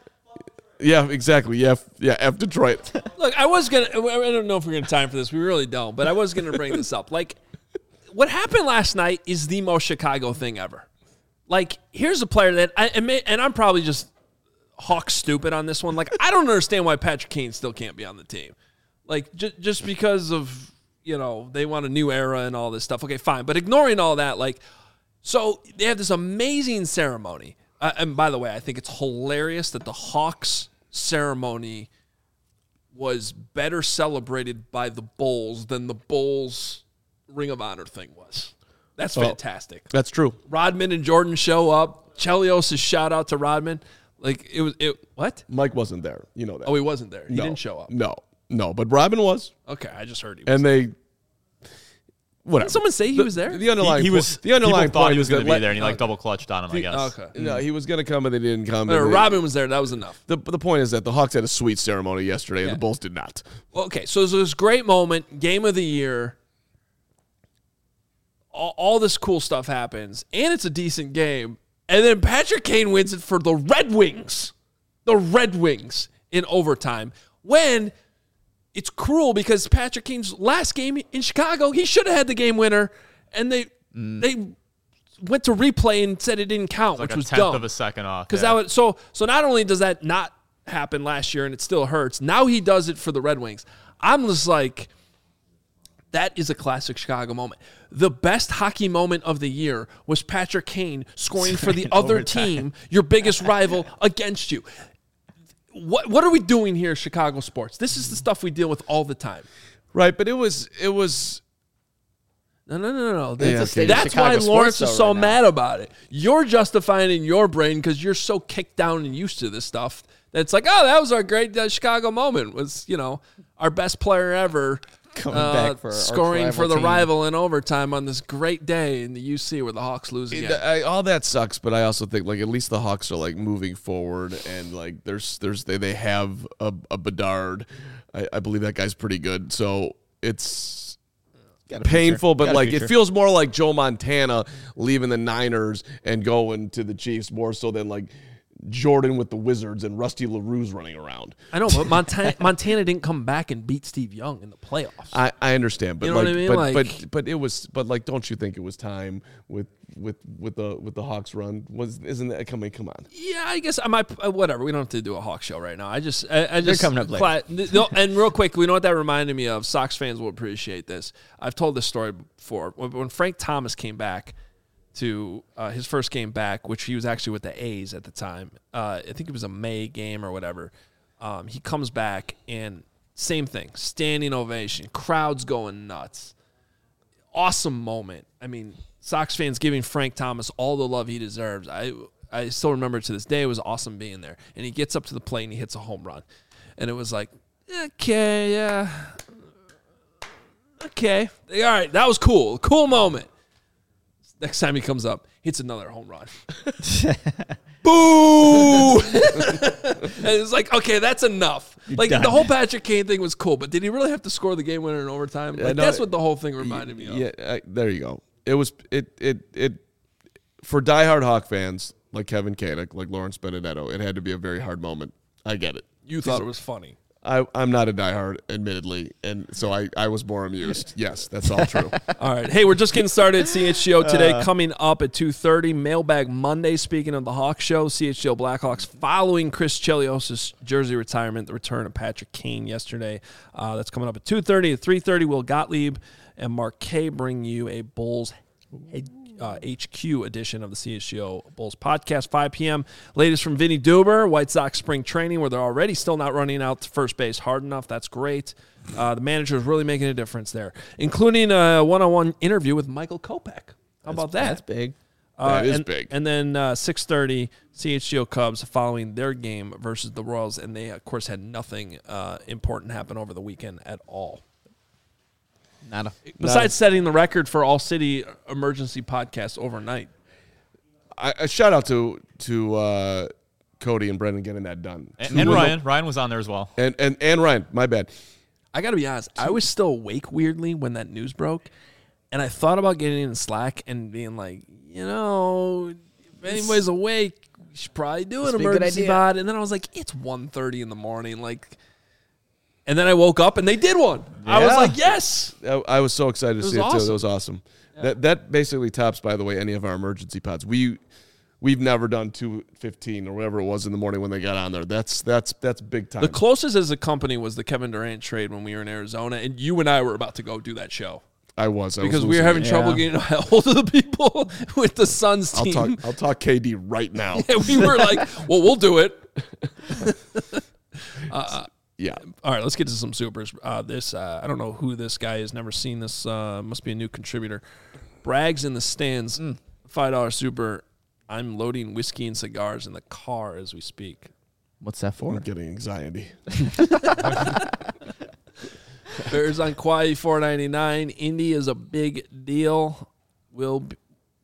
Yeah, exactly. Yeah, F, yeah, F Detroit. Look, I was going to, I don't know if we're going to time for this. We really don't, but I was going to bring this up. Like, what happened last night is the most Chicago thing ever. Like, here's a player that, I and I'm probably just hawk stupid on this one. Like, I don't understand why Patrick Kane still can't be on the team. Like, j- just because of, you know, they want a new era and all this stuff. Okay, fine. But ignoring all that, like, so they have this amazing ceremony. Uh, and by the way, I think it's hilarious that the Hawks ceremony was better celebrated by the Bulls than the Bulls Ring of Honor thing was. That's fantastic. Oh, that's true. Rodman and Jordan show up. Chelios' shout out to Rodman. Like it was it what? Mike wasn't there. You know that. Oh, he wasn't there. He no, didn't show up. No. No, but Rodman was. Okay, I just heard he was. And they whatever. Did someone say he the, was there? The underlying he, he was the underlying people thought point he was going to be there, and he like double clutched on him. I guess. Okay. No, he was going to come, and they didn't come. No, and they, Rodman was there. That was enough. The the point is that the Hawks had a sweet ceremony yesterday, and Yeah. the Bulls did not. Okay, so there's this great moment, game of the year. All, all this cool stuff happens, and it's a decent game. And then Patrick Kane wins it for the Red Wings. The Red Wings in overtime. When it's cruel because Patrick Kane's last game in Chicago, he should have had the game winner, and they mm. they went to replay and said it didn't count, like which a was tenth dumb. of a second off. Because yeah. that was so. So not only does that not happen last year, and it still hurts. Now he does it for the Red Wings. I'm just like, that is a classic Chicago moment. The best hockey moment of the year was Patrick Kane scoring for the other overtime. team, your biggest rival, against you. What what are we doing here, Chicago sports? This is the stuff we deal with all the time. Right, but it was it was. No, no, no, no. Yeah, That's, okay. that's Chicago why sports, Lawrence though, is so right now. mad about it. You're justifying in your brain because you're so kicked down and used to this stuff that it's like, oh, that was our great uh, Chicago moment. Was, you know, our best player ever Coming uh, back for our scoring rival for the team. rival in overtime on this great day in the U C where the Hawks lose again. I, all that sucks, but I also think like at least the Hawks are like moving forward, and like there's there's they, they have a, a Bedard. I, I believe that guy's pretty good. So it's Got a painful, future. but Got a like it future. feels more like Joe Montana leaving the Niners and going to the Chiefs more so than like Jordan with the Wizards and Rusty LaRue's running around. I know, but Montana, Montana didn't come back and beat Steve Young in the playoffs. I, I understand, but You know like, what I mean? but, Like- but but it was, but like, don't you think it was time with with with the with the Hawks run? Was isn't that come come on? Yeah, I guess I might. Uh, whatever. We don't have to do a Hawk show right now. I just, I, I just coming up later. cla- no, and real quick, we know what that reminded me of. Sox fans will appreciate this. I've told this story before. When, when Frank Thomas came back to uh, his first game back, which he was actually with the A's at the time. Uh, I think it was a May game or whatever. Um, he comes back and same thing, standing ovation, crowds going nuts. Awesome moment. I mean, Sox fans giving Frank Thomas all the love he deserves. I I still remember to this day it was awesome being there. And he gets up to the plate and he hits a home run. And it was like, okay, yeah. Okay. All right, that was cool. Cool moment. Next time he comes up, hits another home run. Boo! And it's like, okay, that's enough. Like done. the whole Patrick Kane thing was cool, but did he really have to score the game winner in overtime? Like, no, that's what the whole thing reminded me of. Yeah, uh, there you go. It was it it it for diehard Hawk fans like Kevin Koenig, like Lawrence Benedetto. It had to be a very hard moment. I get it. You thought it was funny. I, I'm not a diehard, admittedly, and so I, I was more amused. Yes, that's all true. All right. Hey, we're just getting started at C H G O today. Uh, coming up at two thirty, Mailbag Monday. Speaking of the Hawk Show, C H G O Blackhawks following Chris Chelios' jersey retirement, the return of Patrick Kane yesterday. Uh, that's coming up at two thirty. At three thirty, Will Gottlieb and Mark Kay bring you a Bulls head Uh, H Q edition of the C H G O Bulls podcast, five p.m. Latest from Vinny Duber, White Sox spring training, where they're already still not running out to first base hard enough. That's great. Uh, the manager is really making a difference there, including a one-on-one interview with Michael Kopech. How That's, about that? That's big. Uh, That is and, big. And then uh, six thirty, C H G O Cubs following their game versus the Royals, and they, of course, had nothing uh, important happen over the weekend at all. Not a. Besides setting the record for all city emergency podcasts overnight. I, a shout out to to uh, Cody and Brendan getting that done. And, Two and win- Ryan. Ryan was on there as well. And, and, and Ryan, my bad. I got to be honest, I was still awake weirdly when that news broke, and I thought about getting in Slack and being like, you know, if anybody's awake, we should probably do an Must be a good emergency idea. pod. And then I was like, it's one thirty in the morning, like, and then I woke up and they did one. I was Yeah. like, yes. I, I was so excited to was see it too. awesome. That was awesome. That that basically tops, by the way, any of our emergency pods. We we've never done two fifteen or whatever it was in the morning when they got on there. That's that's that's big time. The closest as a company was the Kevin Durant trade when we were in Arizona, and you and I were about to go do that show I was I because was we were having losing it. trouble Yeah. getting a hold of the people with the Suns I'll team. talk. I'll talk K D right now. And we were like, well, we'll do it. Yeah. All right, let's get to some supers. Uh, this uh, I don't know who this guy is. Never seen this. Uh, must be a new contributor. Brags in the stands. Five dollar super. I'm loading whiskey and cigars in the car as we speak. What's that for? I'm getting anxiety. Bears on Kauai four ninety nine. Indy is a big deal. Will be,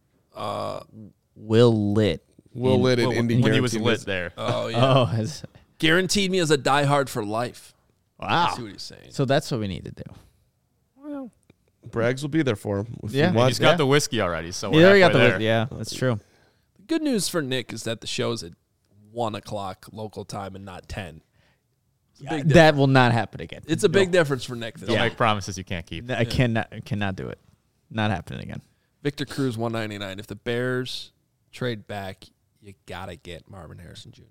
Will lit. Will In- lit and Well, Indy when he was guaranteed lit this. there. oh yeah, Oh, has, guaranteed me as a diehard for life. wow. I see what he's saying. So that's what we need to do. Well, Braggs will be there for him. If Yeah. he wants. He's got Yeah. the whiskey already, so You we're already got the. halfway There. there. Yeah, that's true. good news for Nick is that the show's at one o'clock local time and not ten. It's a big That will not happen again. It's a big difference for Nick. Don't Though. make promises you can't keep. I cannot cannot do it. Not happening again. Victor Cruz one ninety-nine. If the Bears trade back, you gotta get Marvin Harrison Junior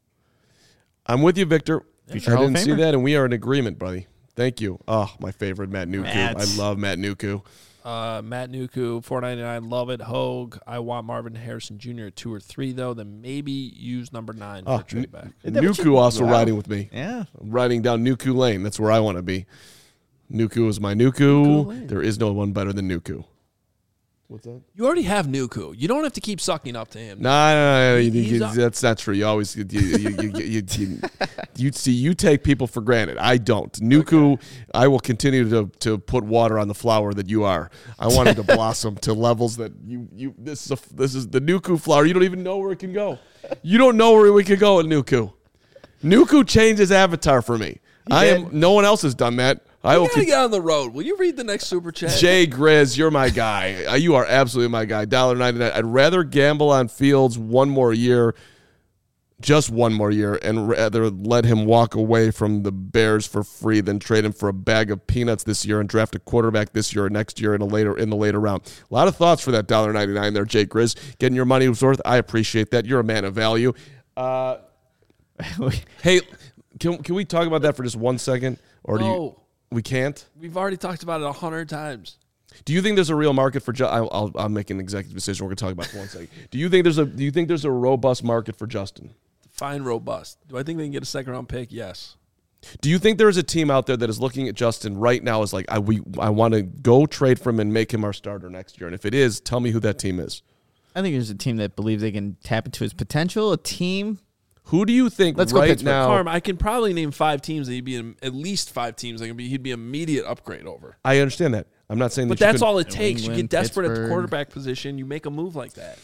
I'm with you, Victor. Future I Hall of didn't see Famer. that, and we are in agreement, buddy. Thank you. Oh, my favorite, Matt Nuku. Matt. I love Matt Nuku. Uh, Matt Nuku four ninety-nine. Love it. Hogue. I want Marvin Harrison Junior at two or three though. Then maybe use number nine for Oh, a trade back. Is that what Nuku you- also Wow. riding with me. Yeah. I'm riding down Nuku Lane. That's where I want to be. Nuku is my Nuku. Nuku Lane. There is no one better than Nuku. What's that? You already have Nuku. You don't have to keep sucking up to him. No, no, no, no, you- He's you- up. that's not true. You always you you, you, you, you, you, you see you take people for granted. I don't. Nuku, I will continue to to put water on the flower that you are. I want it to blossom to levels that you you. This is a, this is the Nuku flower. You don't even know where it can go. You don't know where we could go with Nuku. Nuku changed his avatar for me. I am. No one else has done that. I You will. gotta Con- get on the road. Will you read the next super chat? Jay Grizz, you're my guy. Uh, You are absolutely my guy. one dollar ninety-nine. I'd rather gamble on Fields one more year, just one more year, and rather let him walk away from the Bears for free than trade him for a bag of peanuts this year and draft a quarterback this year or next year in a later in the later round. A lot of thoughts for that one dollar ninety-nine there, Jay Grizz. Getting your money's worth. I appreciate that. You're a man of value. Uh, hey, can can we talk about that for just one second, or do you? No. We can't. We've already talked about it a hundred times. Do you think there's a real market for? Ju- I'll, I'll I'll make an executive decision. We're gonna talk about it for one second. Do you think there's a Do you think there's a robust market for Justin? Fine, robust. Do I think they can get a second round pick? Yes. Do you think there's a team out there that is looking at Justin right now as like I we I want to go trade for him and make him our starter next year? And if it is, tell me who that team is. I think there's a team that believes they can tap into his potential. A team. Who do you think Let's go right Pittsburgh. now? Carm, I can probably name five teams that he'd be in, at least five teams that can be he'd be immediate upgrade over. I understand that. I'm not saying But that you that's couldn't- all it New takes. You England, get desperate at the Pittsburgh. quarterback position, you make a move like that.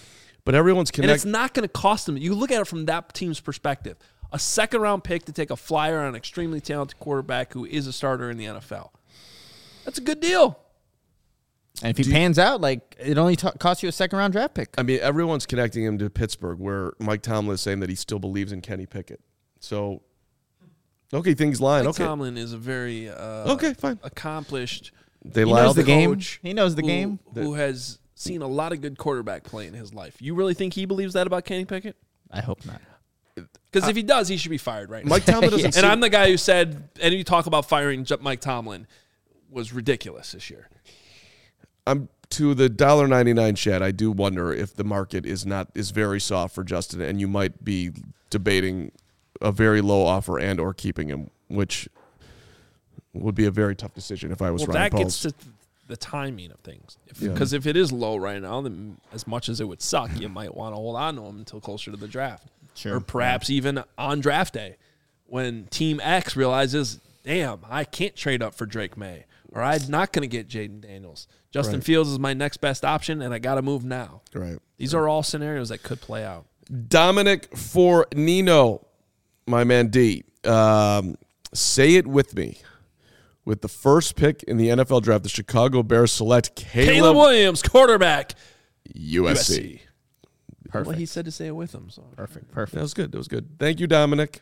But everyone's And it's connected. not going to cost them. You look at it from that team's perspective. A second-round pick to take a flyer on an extremely talented quarterback who is a starter in the N F L. That's a good deal. And if he pans out, like it only t- costs you a second round draft pick. I mean, everyone's connecting him to Pittsburgh, where Mike Tomlin is saying that he still believes in Kenny Pickett. So, okay, things line. Mike Okay, Tomlin is a very uh, okay, fine. accomplished They He lie. knows the game. coach He knows the who, game. who has seen a lot of good quarterback play in his life. You really think he believes that about Kenny Pickett? I hope not. Because if he does, he should be fired right now. Mike Tomlin doesn't. And seem- I'm the guy who said any talk about firing J- Mike Tomlin was ridiculous this year. I'm to the one dollar ninety-nine chat. I do wonder if the market is not is very soft for Justin, and you might be debating a very low offer and or keeping him, which would be a very tough decision if I was Well, Ryan that gets Poles. to the timing of things. Yeah. Because if, if it is low right now, then as much as it would suck, you might want to hold on to him until closer to the draft. Sure. Or perhaps even on draft day when Team X realizes, damn, I can't trade up for Drake May, or I'm not going to get Jaden Daniels. Justin Right. Fields is my next best option, and I got to move now. Right. These are all scenarios that could play out. Dominic for Nino, my man D. Um, say it with me. With the first pick in the N F L draft, the Chicago Bears select Caleb, Caleb Williams, quarterback, U S C. U S C. Perfect. Well, he said to say it with him. So. Perfect. That Perfect. was good. That was good. Thank you, Dominic.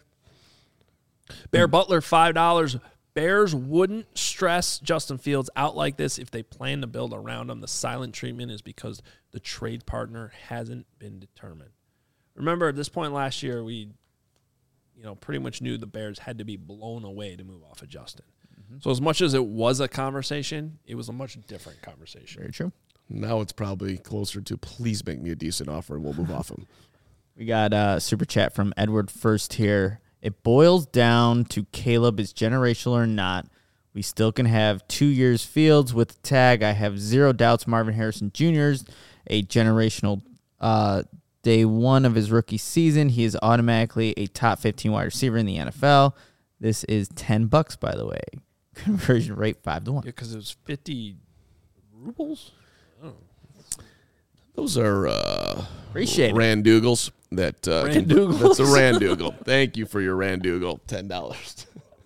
Bear Butler, five dollars. Bears wouldn't stress Justin Fields out like this if they plan to build around him. The silent treatment is because the trade partner hasn't been determined. Remember, at this point last year, we you know, pretty much knew the Bears had to be blown away to move off of Justin. Mm-hmm. So as much as it was a conversation, it was a much different conversation. Very true. Now it's probably closer to please make me a decent offer and we'll move off him. We got a super chat from Edward First here. It boils down to Caleb is generational or not. We still can have two years Fields with the tag. I have zero doubts Marvin Harrison Junior is a generational uh, day one of his rookie season. He is automatically a top fifteen wide receiver in the N F L. This is ten bucks, by the way. Conversion rate five to one. Yeah, because it was fifty rubles. Those are uh, Appreciate it. Randoogles. That uh, can- Randoogles. That's a Randoogle. Thank you for your Randoogle. Ten dollars.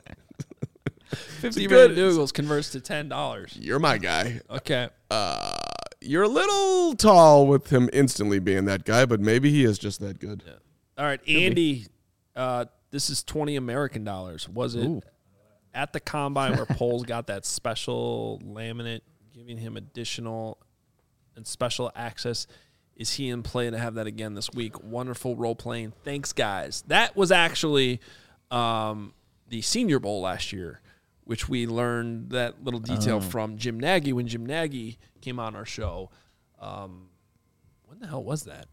Fifty good- Randoogles converts to ten dollars. You're my guy. Okay. Uh, you're a little tall with him instantly being that guy, but maybe he is just that good. All right, Andy. Uh, this is twenty American dollars. Was it Ooh. at the combine where Poles got that special laminate, giving him additional and special access? Is he in play to have that again this week? Wonderful role playing. Thanks, guys. That was actually um, the Senior Bowl last year, which we learned that little detail from Jim Nagy when Jim Nagy came on our show. Um, when the hell was that?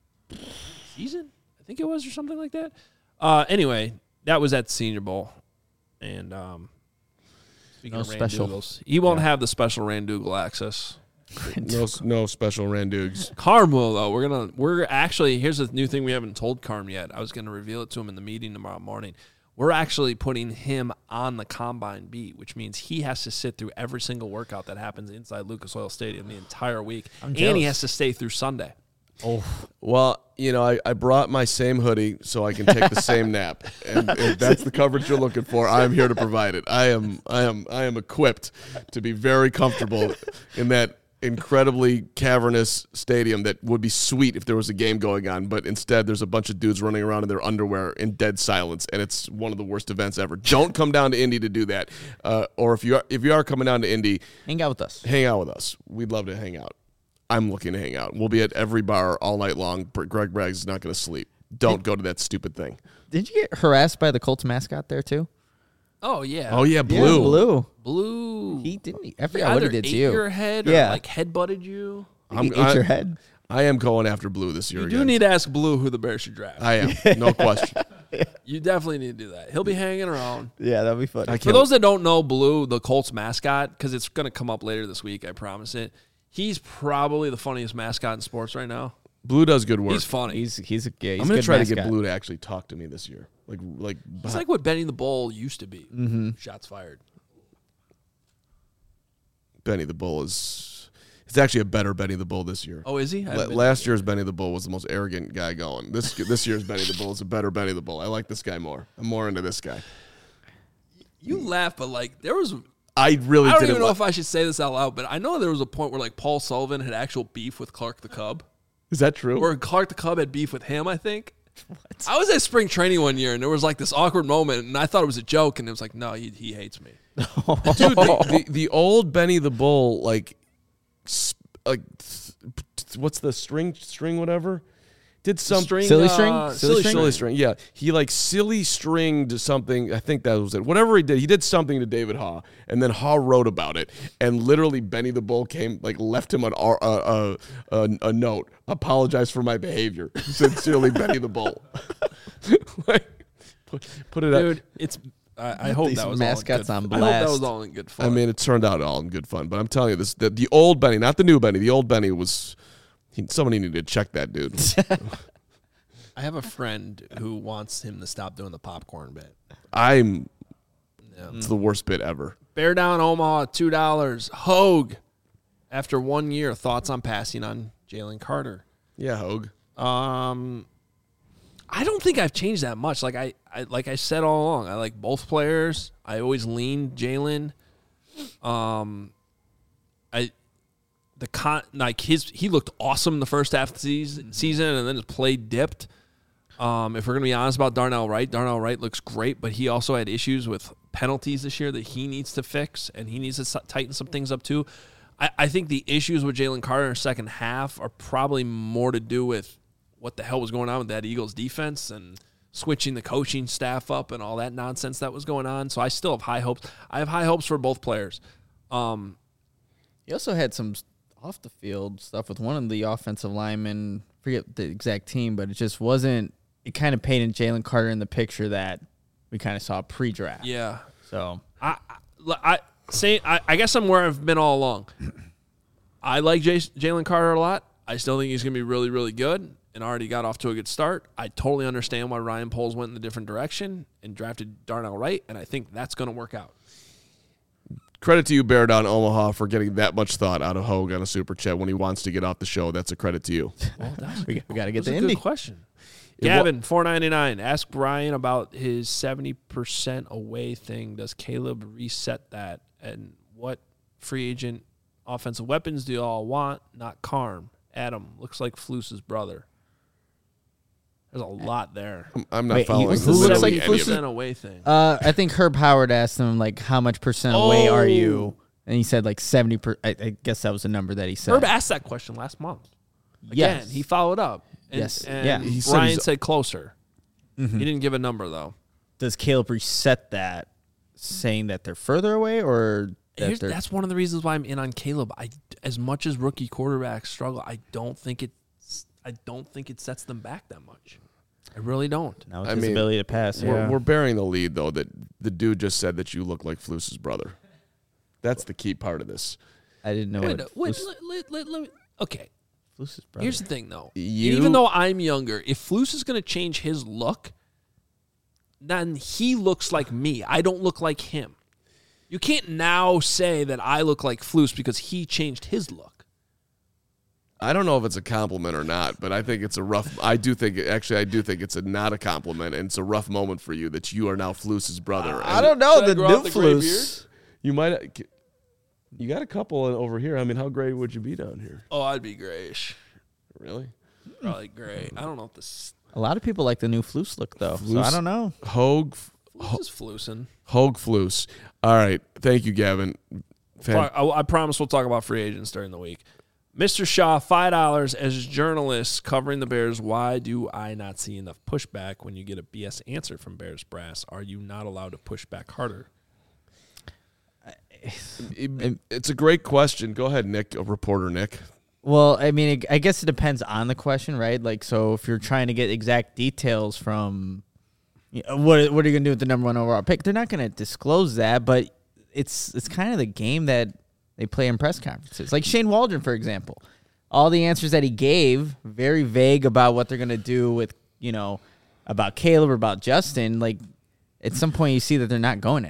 Season? I think it was, or something like that. Uh, anyway, that was at the Senior Bowl. And um, speaking No of special. Randoogles, he won't have the special Randoogle access. No, no special Randoogs. Carm will though. We're gonna we're actually here's a new thing we haven't told Carm yet. I was gonna reveal it to him in the meeting tomorrow morning. We're actually putting him on the combine beat, which means he has to sit through every single workout that happens inside Lucas Oil Stadium the entire week, I'm and he jealous. has to stay through Sunday. Oh, Well, you know, I, I brought my same hoodie so I can take the same nap, and if that's the coverage you're looking for, I'm here to provide it. I am, I am, I am equipped to be very comfortable in that incredibly cavernous stadium that would be sweet if there was a game going on, but instead there's a bunch of dudes running around in their underwear in dead silence, and it's one of the worst events ever. Don't come down to Indy to do that, uh, or if you are, if you are coming down to Indy, hang out with us. hang out with us. We'd love to hang out. I'm looking to hang out. We'll be at every bar all night long. Greg Braggs is not going to sleep. Don't go to that stupid thing. Did you get harassed by the Colts mascot there too? Oh yeah, Oh, yeah, Blue. Yeah, Blue. blue. He didn't. I He forgot what he either did ate to you. your head or Yeah. like head butted you. He I'm- ate I- your head. I am going after Blue this year You again. do need to ask Blue who the Bears should draft. I am. No question. You definitely need to do that. He'll be hanging around. Yeah, that'd be fun. I For can't. those that don't know Blue, the Colts mascot, because it's going to come up later this week, I promise it. He's probably the funniest mascot in sports right now. Blue does good work. He's funny. He's he's a yeah, he's I'm going good to try mascot. to get Blue to actually talk to me this year. Like, like, It's like what Benny the Bull used to be. Mm-hmm. Shots fired. Benny the Bull is. He's actually a better Benny the Bull this year. Oh, is he? I La- haven't been last there. year's Benny the Bull was the most arrogant guy going. This this year's Benny the Bull is a better Benny the Bull. I like this guy more. I'm more into this guy. You laugh, but like there was. I really I don't didn't even know li- if I should say this out loud, but I know there was a point where like Paul Sullivan had actual beef with Clark the Cub, Is that true? or Clark the Cub had beef with him. I think. What? I was at spring training one year, and there was like this awkward moment, and I thought it was a joke, and it was like, no, he he hates me. Dude, the, the, the old Benny the Bull, like, sp- like, th- what's the string, string, whatever? Did some String, Silly string? uh, Silly silly string? silly string. Yeah, he like silly stringed something. I think that was it. Whatever he did, he did something to David Haw, and then Haw wrote about it. And literally, Benny the Bull came, like, left him an, uh, uh, a, a note. Apologize for my behavior. Sincerely, Benny the Bull. like, put, put it up. Dude, it's. I, I hope These that was mascots all in on good, I hope that blast. was all in good fun. I mean, it turned out all in good fun. But I'm telling you, this the, the old Benny, not the new Benny. The old Benny was. He, somebody needed to check that dude. I have a friend who wants him to stop doing the popcorn bit. I'm. Yeah. It's the worst bit ever. Bear Down Omaha, two dollars. Hogue, after one year, thoughts on passing on Jalen Carter. Yeah, Hogue. Um, I don't think I've changed that much. Like I, I like I said all along, I like both players. I always leaned Jalen. Um, I, the con like his he looked awesome the first half of the season, season and then his play dipped. Um, if we're gonna be honest about Darnell Wright, Darnell Wright looks great, but he also had issues with penalties this year that he needs to fix, and he needs to s- tighten some things up too. I, I think the issues with Jalen Carter in the second half are probably more to do with what the hell was going on with that Eagles defense and switching the coaching staff up and all that nonsense that was going on. So I still have high hopes. I have high hopes for both players. Um, He also had some off the field stuff with one of the offensive linemen. Forget the exact team, but it just wasn't. It kind of painted Jalen Carter in the picture that we kind of saw pre-draft. yeah. So I, I, I say I, I guess I'm where I've been all along. I like Jay, Jalen Carter a lot. I still think he's going to be really, really good and already got off to a good start. I totally understand why Ryan Poles went in a different direction and drafted Darnell Wright, and I think that's going to work out. Credit to you, Bear Down Omaha, for getting that much thought out of Hogue on a super chat when he wants to get off the show. That's a credit to you. Well, that's we, we got to get That's the a Indy. good question. It wa- Gavin, four ninety-nine. Ask Brian about his seventy percent away thing. Does Caleb reset that? And what free agent offensive weapons do you all want? Not Carm. Adam, looks like Fluce's brother. There's a lot there. I'm, I'm not Wait, he- following who looks literally like any of Fluce's- it. percent away thing. Uh, I think Herb Howard asked him like, "How much percent away are Oh. you?" And he said like seventy per. I, I guess that was the number that he said. Herb asked that question last month. Again, Yes. he followed up. And, Yes. And Yeah. He said Brian he's- said closer. Mhm. He didn't give a number, though. Does Caleb reset that, saying that they're further away, or that Here's, they're that's one of the reasons why I'm in on Caleb. I, as much as rookie quarterbacks struggle, I don't think it. I don't think it sets them back that much. I really don't. now with I his mean, ability to pass? We're, Yeah. we're bearing the lead, though, that the dude just said that you look like Fluce's brother. That's the key part of this. I didn't know Wait, what wait, Flus- let, let, let, let me, okay, Fluce's brother. here's the thing, though. You- Even though I'm younger, if Fluce is going to change his look, then he looks like me. I don't look like him. You can't now say that I look like Fluce because he changed his look. I don't know if it's a compliment or not, but I think it's a rough. I do think actually, I do think it's a not a compliment, and it's a rough moment for you that you are now Fluce's brother. I And don't know Should I the grow new out the gray Fluce. You might. You got a couple over here. I mean, how gray would you be down here? Oh, I'd be grayish. Really? Probably gray. I don't know if this A lot of people like the new Fluce look though, so I Fluce? don't know. Hogue, Fluce is flusing. Hogue Fluce. All right. Thank you, Gavin. Fan- I, I promise we'll talk about free agents during the week. Mister Shaw, five dollars as journalists covering the Bears. Why do I not see enough pushback when you get a B S answer from Bears Brass? Are you not allowed to push back harder? It- it's a great question. Go ahead, Nick, a reporter, Nick. Well, I mean, it, I guess it depends on the question, right? Like, so if you're trying to get exact details from, you know, what what are you gonna do with the number one overall pick? They're not gonna disclose that, but it's it's kind of the game that they play in press conferences. Like Shane Waldron, for example, all the answers that he gave very vague about what they're gonna do with, you know, about Caleb or about Justin. Like, at some point, you see that they're not going anywhere.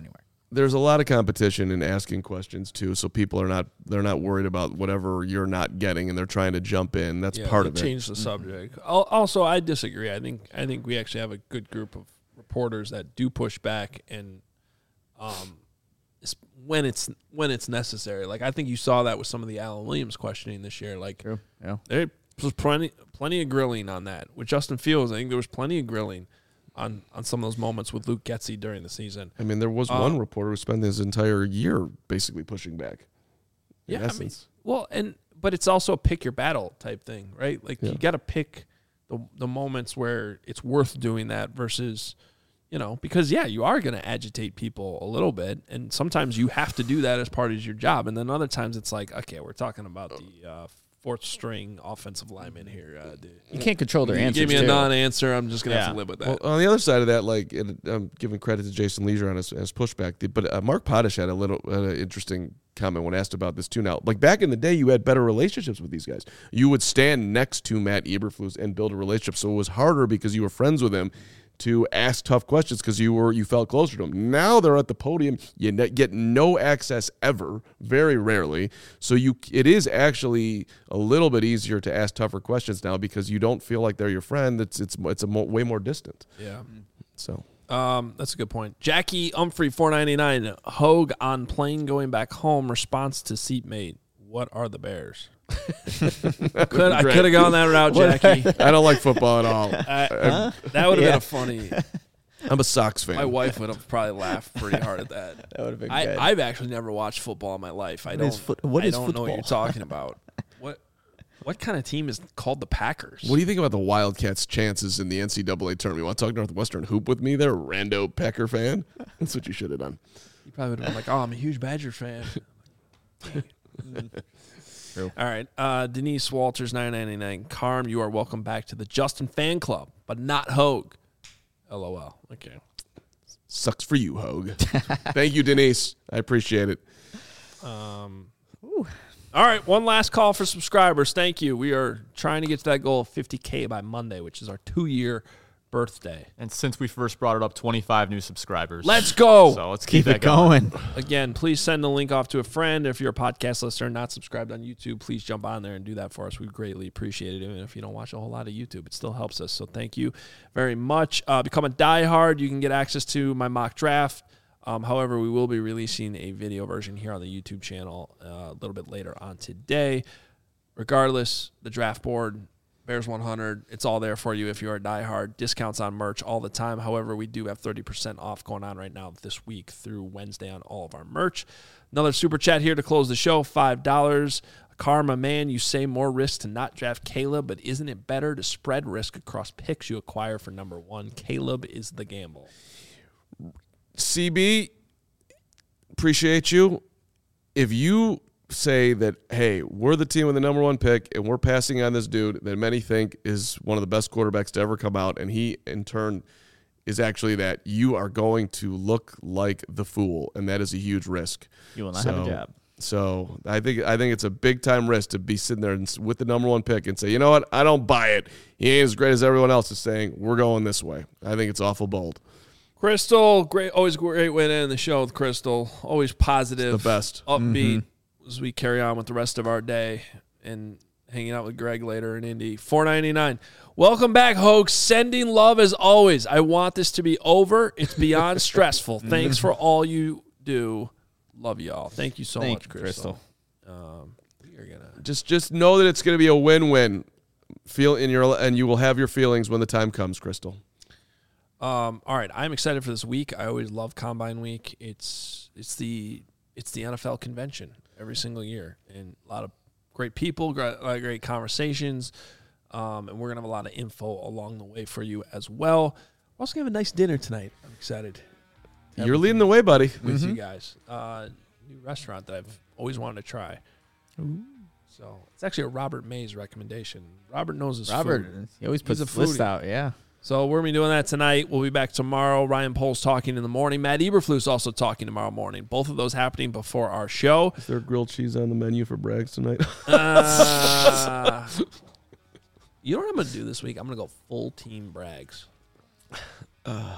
there's a lot of competition in asking questions too, so people are not they're not worried about whatever you're not getting, and they're trying to jump in. That's Yeah, part they of it. change the subject. Al- Also, I disagree. I think I think we actually have a good group of reporters that do push back, and um, it's when it's when it's necessary. Like I think you saw that with some of the Alan Williams questioning this year. Like True. Yeah. there was plenty plenty of grilling on that. With Justin Fields, I think there was plenty of grilling on on some of those moments with Luke Getsy during the season. I mean, there was Uh, one reporter who spent his entire year basically pushing back. In Yeah, I mean, essence. well, and but it's also a pick your battle type thing, right? Like Yeah. you got to pick the the moments where it's worth doing that versus, you know, because yeah, you are going to agitate people a little bit, and sometimes you have to do that as part of your job, and then other times it's like, okay, we're talking about the uh, fourth string offensive lineman here. Uh, dude. You can't control their You answers. give me a too. non-answer, I'm just gonna have Yeah. to live with that. Well, on the other side of that, like and I'm giving credit to Jason Leisure on his, his pushback, but uh, Mark Potash had a little uh, interesting comment when asked about this too. Now, like back in the day, you had better relationships with these guys. You would stand next to Matt Eberflus and build a relationship, so it was harder because you were friends with him to ask tough questions because you were you felt closer to him. Now they're at the podium, you ne- get no access ever, very rarely. So you it is actually a little bit easier to ask tougher questions now because you don't feel like they're your friend. It's it's it's a mo- way more distant. yeah. So Um, that's a good point. Jackie Humphrey, four ninety nine. Hogue on plane going back home. Response to seatmate. What are the Bears? could I great. could have gone that route, Jackie. I don't like football at all. I- that would have Yeah. been a funny. I'm a Sox fan. My wife would have probably laughed pretty hard at that. That would have been I, good. I've actually never watched football in my life. I What don't. is foot- what I is don't know what you're football? talking about. What What kind of team is called the Packers? What do you think about the Wildcats' chances in the N C double A tournament? You want to talk Northwestern hoop with me there, rando Packer fan? That's what you should have done. You probably would have been like, "Oh, I'm a huge Badger fan." True. All right, uh, Denise Walters, nine ninety nine. Carm, you are welcome back to the Justin fan club, but not Hogue. LOL. Okay. Sucks for you, Hogue. Thank you, Denise. I appreciate it. Um, all right, one last call for subscribers. Thank you. We are trying to get to that goal of fifty K by Monday, which is our two-year birthday. And since we first brought it up, twenty-five new subscribers. Let's go. So let's keep, Keep that it going. Again, please send the link off to a friend. If you're a podcast listener not subscribed on YouTube, please jump on there and do that for us. We greatly appreciate it. Even if you don't watch a whole lot of YouTube, it still helps us. So thank you very much. Uh, become a diehard. You can get access to my mock draft. Um, however, we will be releasing a video version here on the YouTube channel uh, a little bit later on today. Regardless, the draft board, Bears one hundred, it's all there for you if you're a diehard. Discounts on merch all the time. However, we do have thirty percent off going on right now this week through Wednesday on all of our merch. Another super chat here to close the show, five dollars. Karma, man, you say more risk to not draft Caleb, but isn't it better to spread risk across picks you acquire for number one? Caleb is the gamble. C B, appreciate you. If you say that, hey, we're the team with the number one pick and we're passing on this dude that many think is one of the best quarterbacks to ever come out, and he in turn is actually that, you are going to look like the fool, and that is a huge risk. You will not so, have a job. So I think I think it's a big time risk to be sitting there and, s- with the number one pick and say, you know what, I don't buy it. He ain't as great as everyone else is saying. We're going this way. I think it's awful bold. Crystal, great, always great way to end the show with Crystal. Always positive, It's the best. upbeat as we carry on with the rest of our day and hanging out with Greg later in Indy. four ninety-nine. Welcome back, Hoax. Sending love as always. I want this to be over. It's beyond stressful. Thanks for all you do. Love y'all. Thank you so Thank much, you, Crystal. Um, we are gonna. Just just know that it's going to be a win-win. Feel in your and you will have your feelings when the time comes, Crystal. Um, all right, I'm excited for this week. I always love Combine Week. It's it's the it's the N F L convention every single year, and a lot of great people, great, great conversations, um, and we're gonna have a lot of info along the way for you as well. We're also gonna have a nice dinner tonight. I'm excited. to have You're with leading you- the way, buddy. with you guys. Uh, new restaurant that I've always wanted to try. So it's actually a Robert Mays recommendation. Robert knows his Robert, food. he always He's puts a the list foodie. out. Yeah. So we're going to be doing that tonight. We'll be back tomorrow. Ryan Poles talking in the morning. Matt Eberflus also talking tomorrow morning. Both of those happening before our show. Is there grilled cheese on the menu for Braggs tonight? Uh, you know what I'm going to do this week? I'm going to go full team Brags.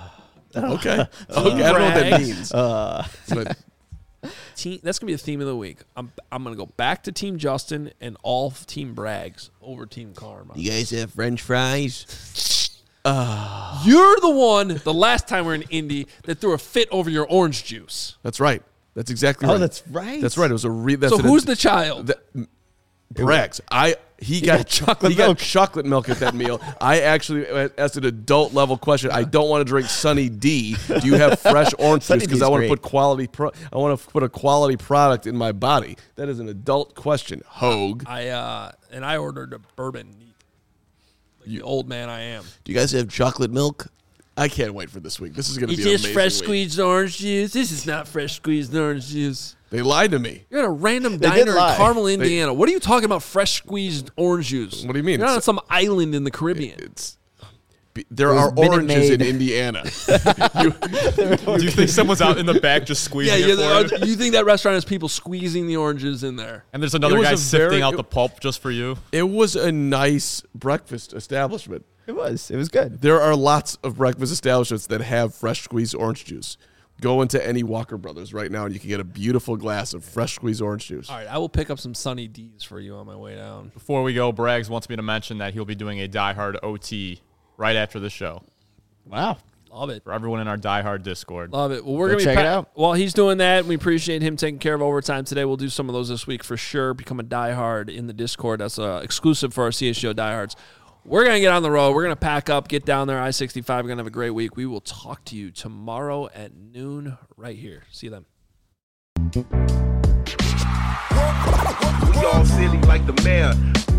Okay. Okay. I don't know what that Brags. means. Uh, But Team, that's gonna be the theme of the week. I'm I'm gonna go back to Team Justin and all Team Brags over Team Karma. You guys have French fries? You're the one. The last time we were in Indy that threw a fit over your orange juice. that's right. That's exactly oh, right. that's right. That's right. It was a re- that's So an- who's the child? that, Brags. I he, got, got chocolate he got milk. chocolate milk at that meal. I actually asked an adult level question. I don't want to drink Sunny D. Do you have fresh orange Sunny juice? Because D's I want to great. put quality. Pro- I want to put a quality product in my body. That is an adult question. Hogue. I uh and I ordered a bourbon. Like the old man I am. Do you guys have chocolate milk? I can't wait for this week. This is going to It's be an just amazing fresh week. squeezed orange juice. This is not fresh squeezed orange juice. They lied to me. You're at a random They did diner in lie. Carmel, Indiana. What are you talking about? Fresh squeezed orange juice? What do you mean? You're not on It's- some island in the Caribbean. It's there It was are Minute oranges in Maid. Indiana. Do you think someone's out in the back just squeezing Yeah, it yeah. for you? You think that restaurant has people squeezing the oranges in there? And there's It another was guy a sifting very- out it- the pulp just for you. It was a nice breakfast establishment. It was. It was good. There are lots of breakfast establishments that have fresh squeezed orange juice. Go into any Walker Brothers right now and you can get a beautiful glass of fresh squeezed orange juice. All right, I will pick up some Sunny D's for you on my way down. Before we go, Braggs wants me to mention that he'll be doing a Die Hard O T right after the show Wow. Love it. for everyone in our Die Hard Discord. Love it. Well, we're Go gonna be check it out. While he's doing that, we appreciate him taking care of overtime today. We'll do some of those this week for sure. Become a diehard in the Discord. That's uh, exclusive for our C S G O diehards. We're gonna get on the road. We're gonna pack up, get down there. I sixty-five. We're gonna have a great week. We will talk to you tomorrow at noon right here. See you then. We all silly like the mayor.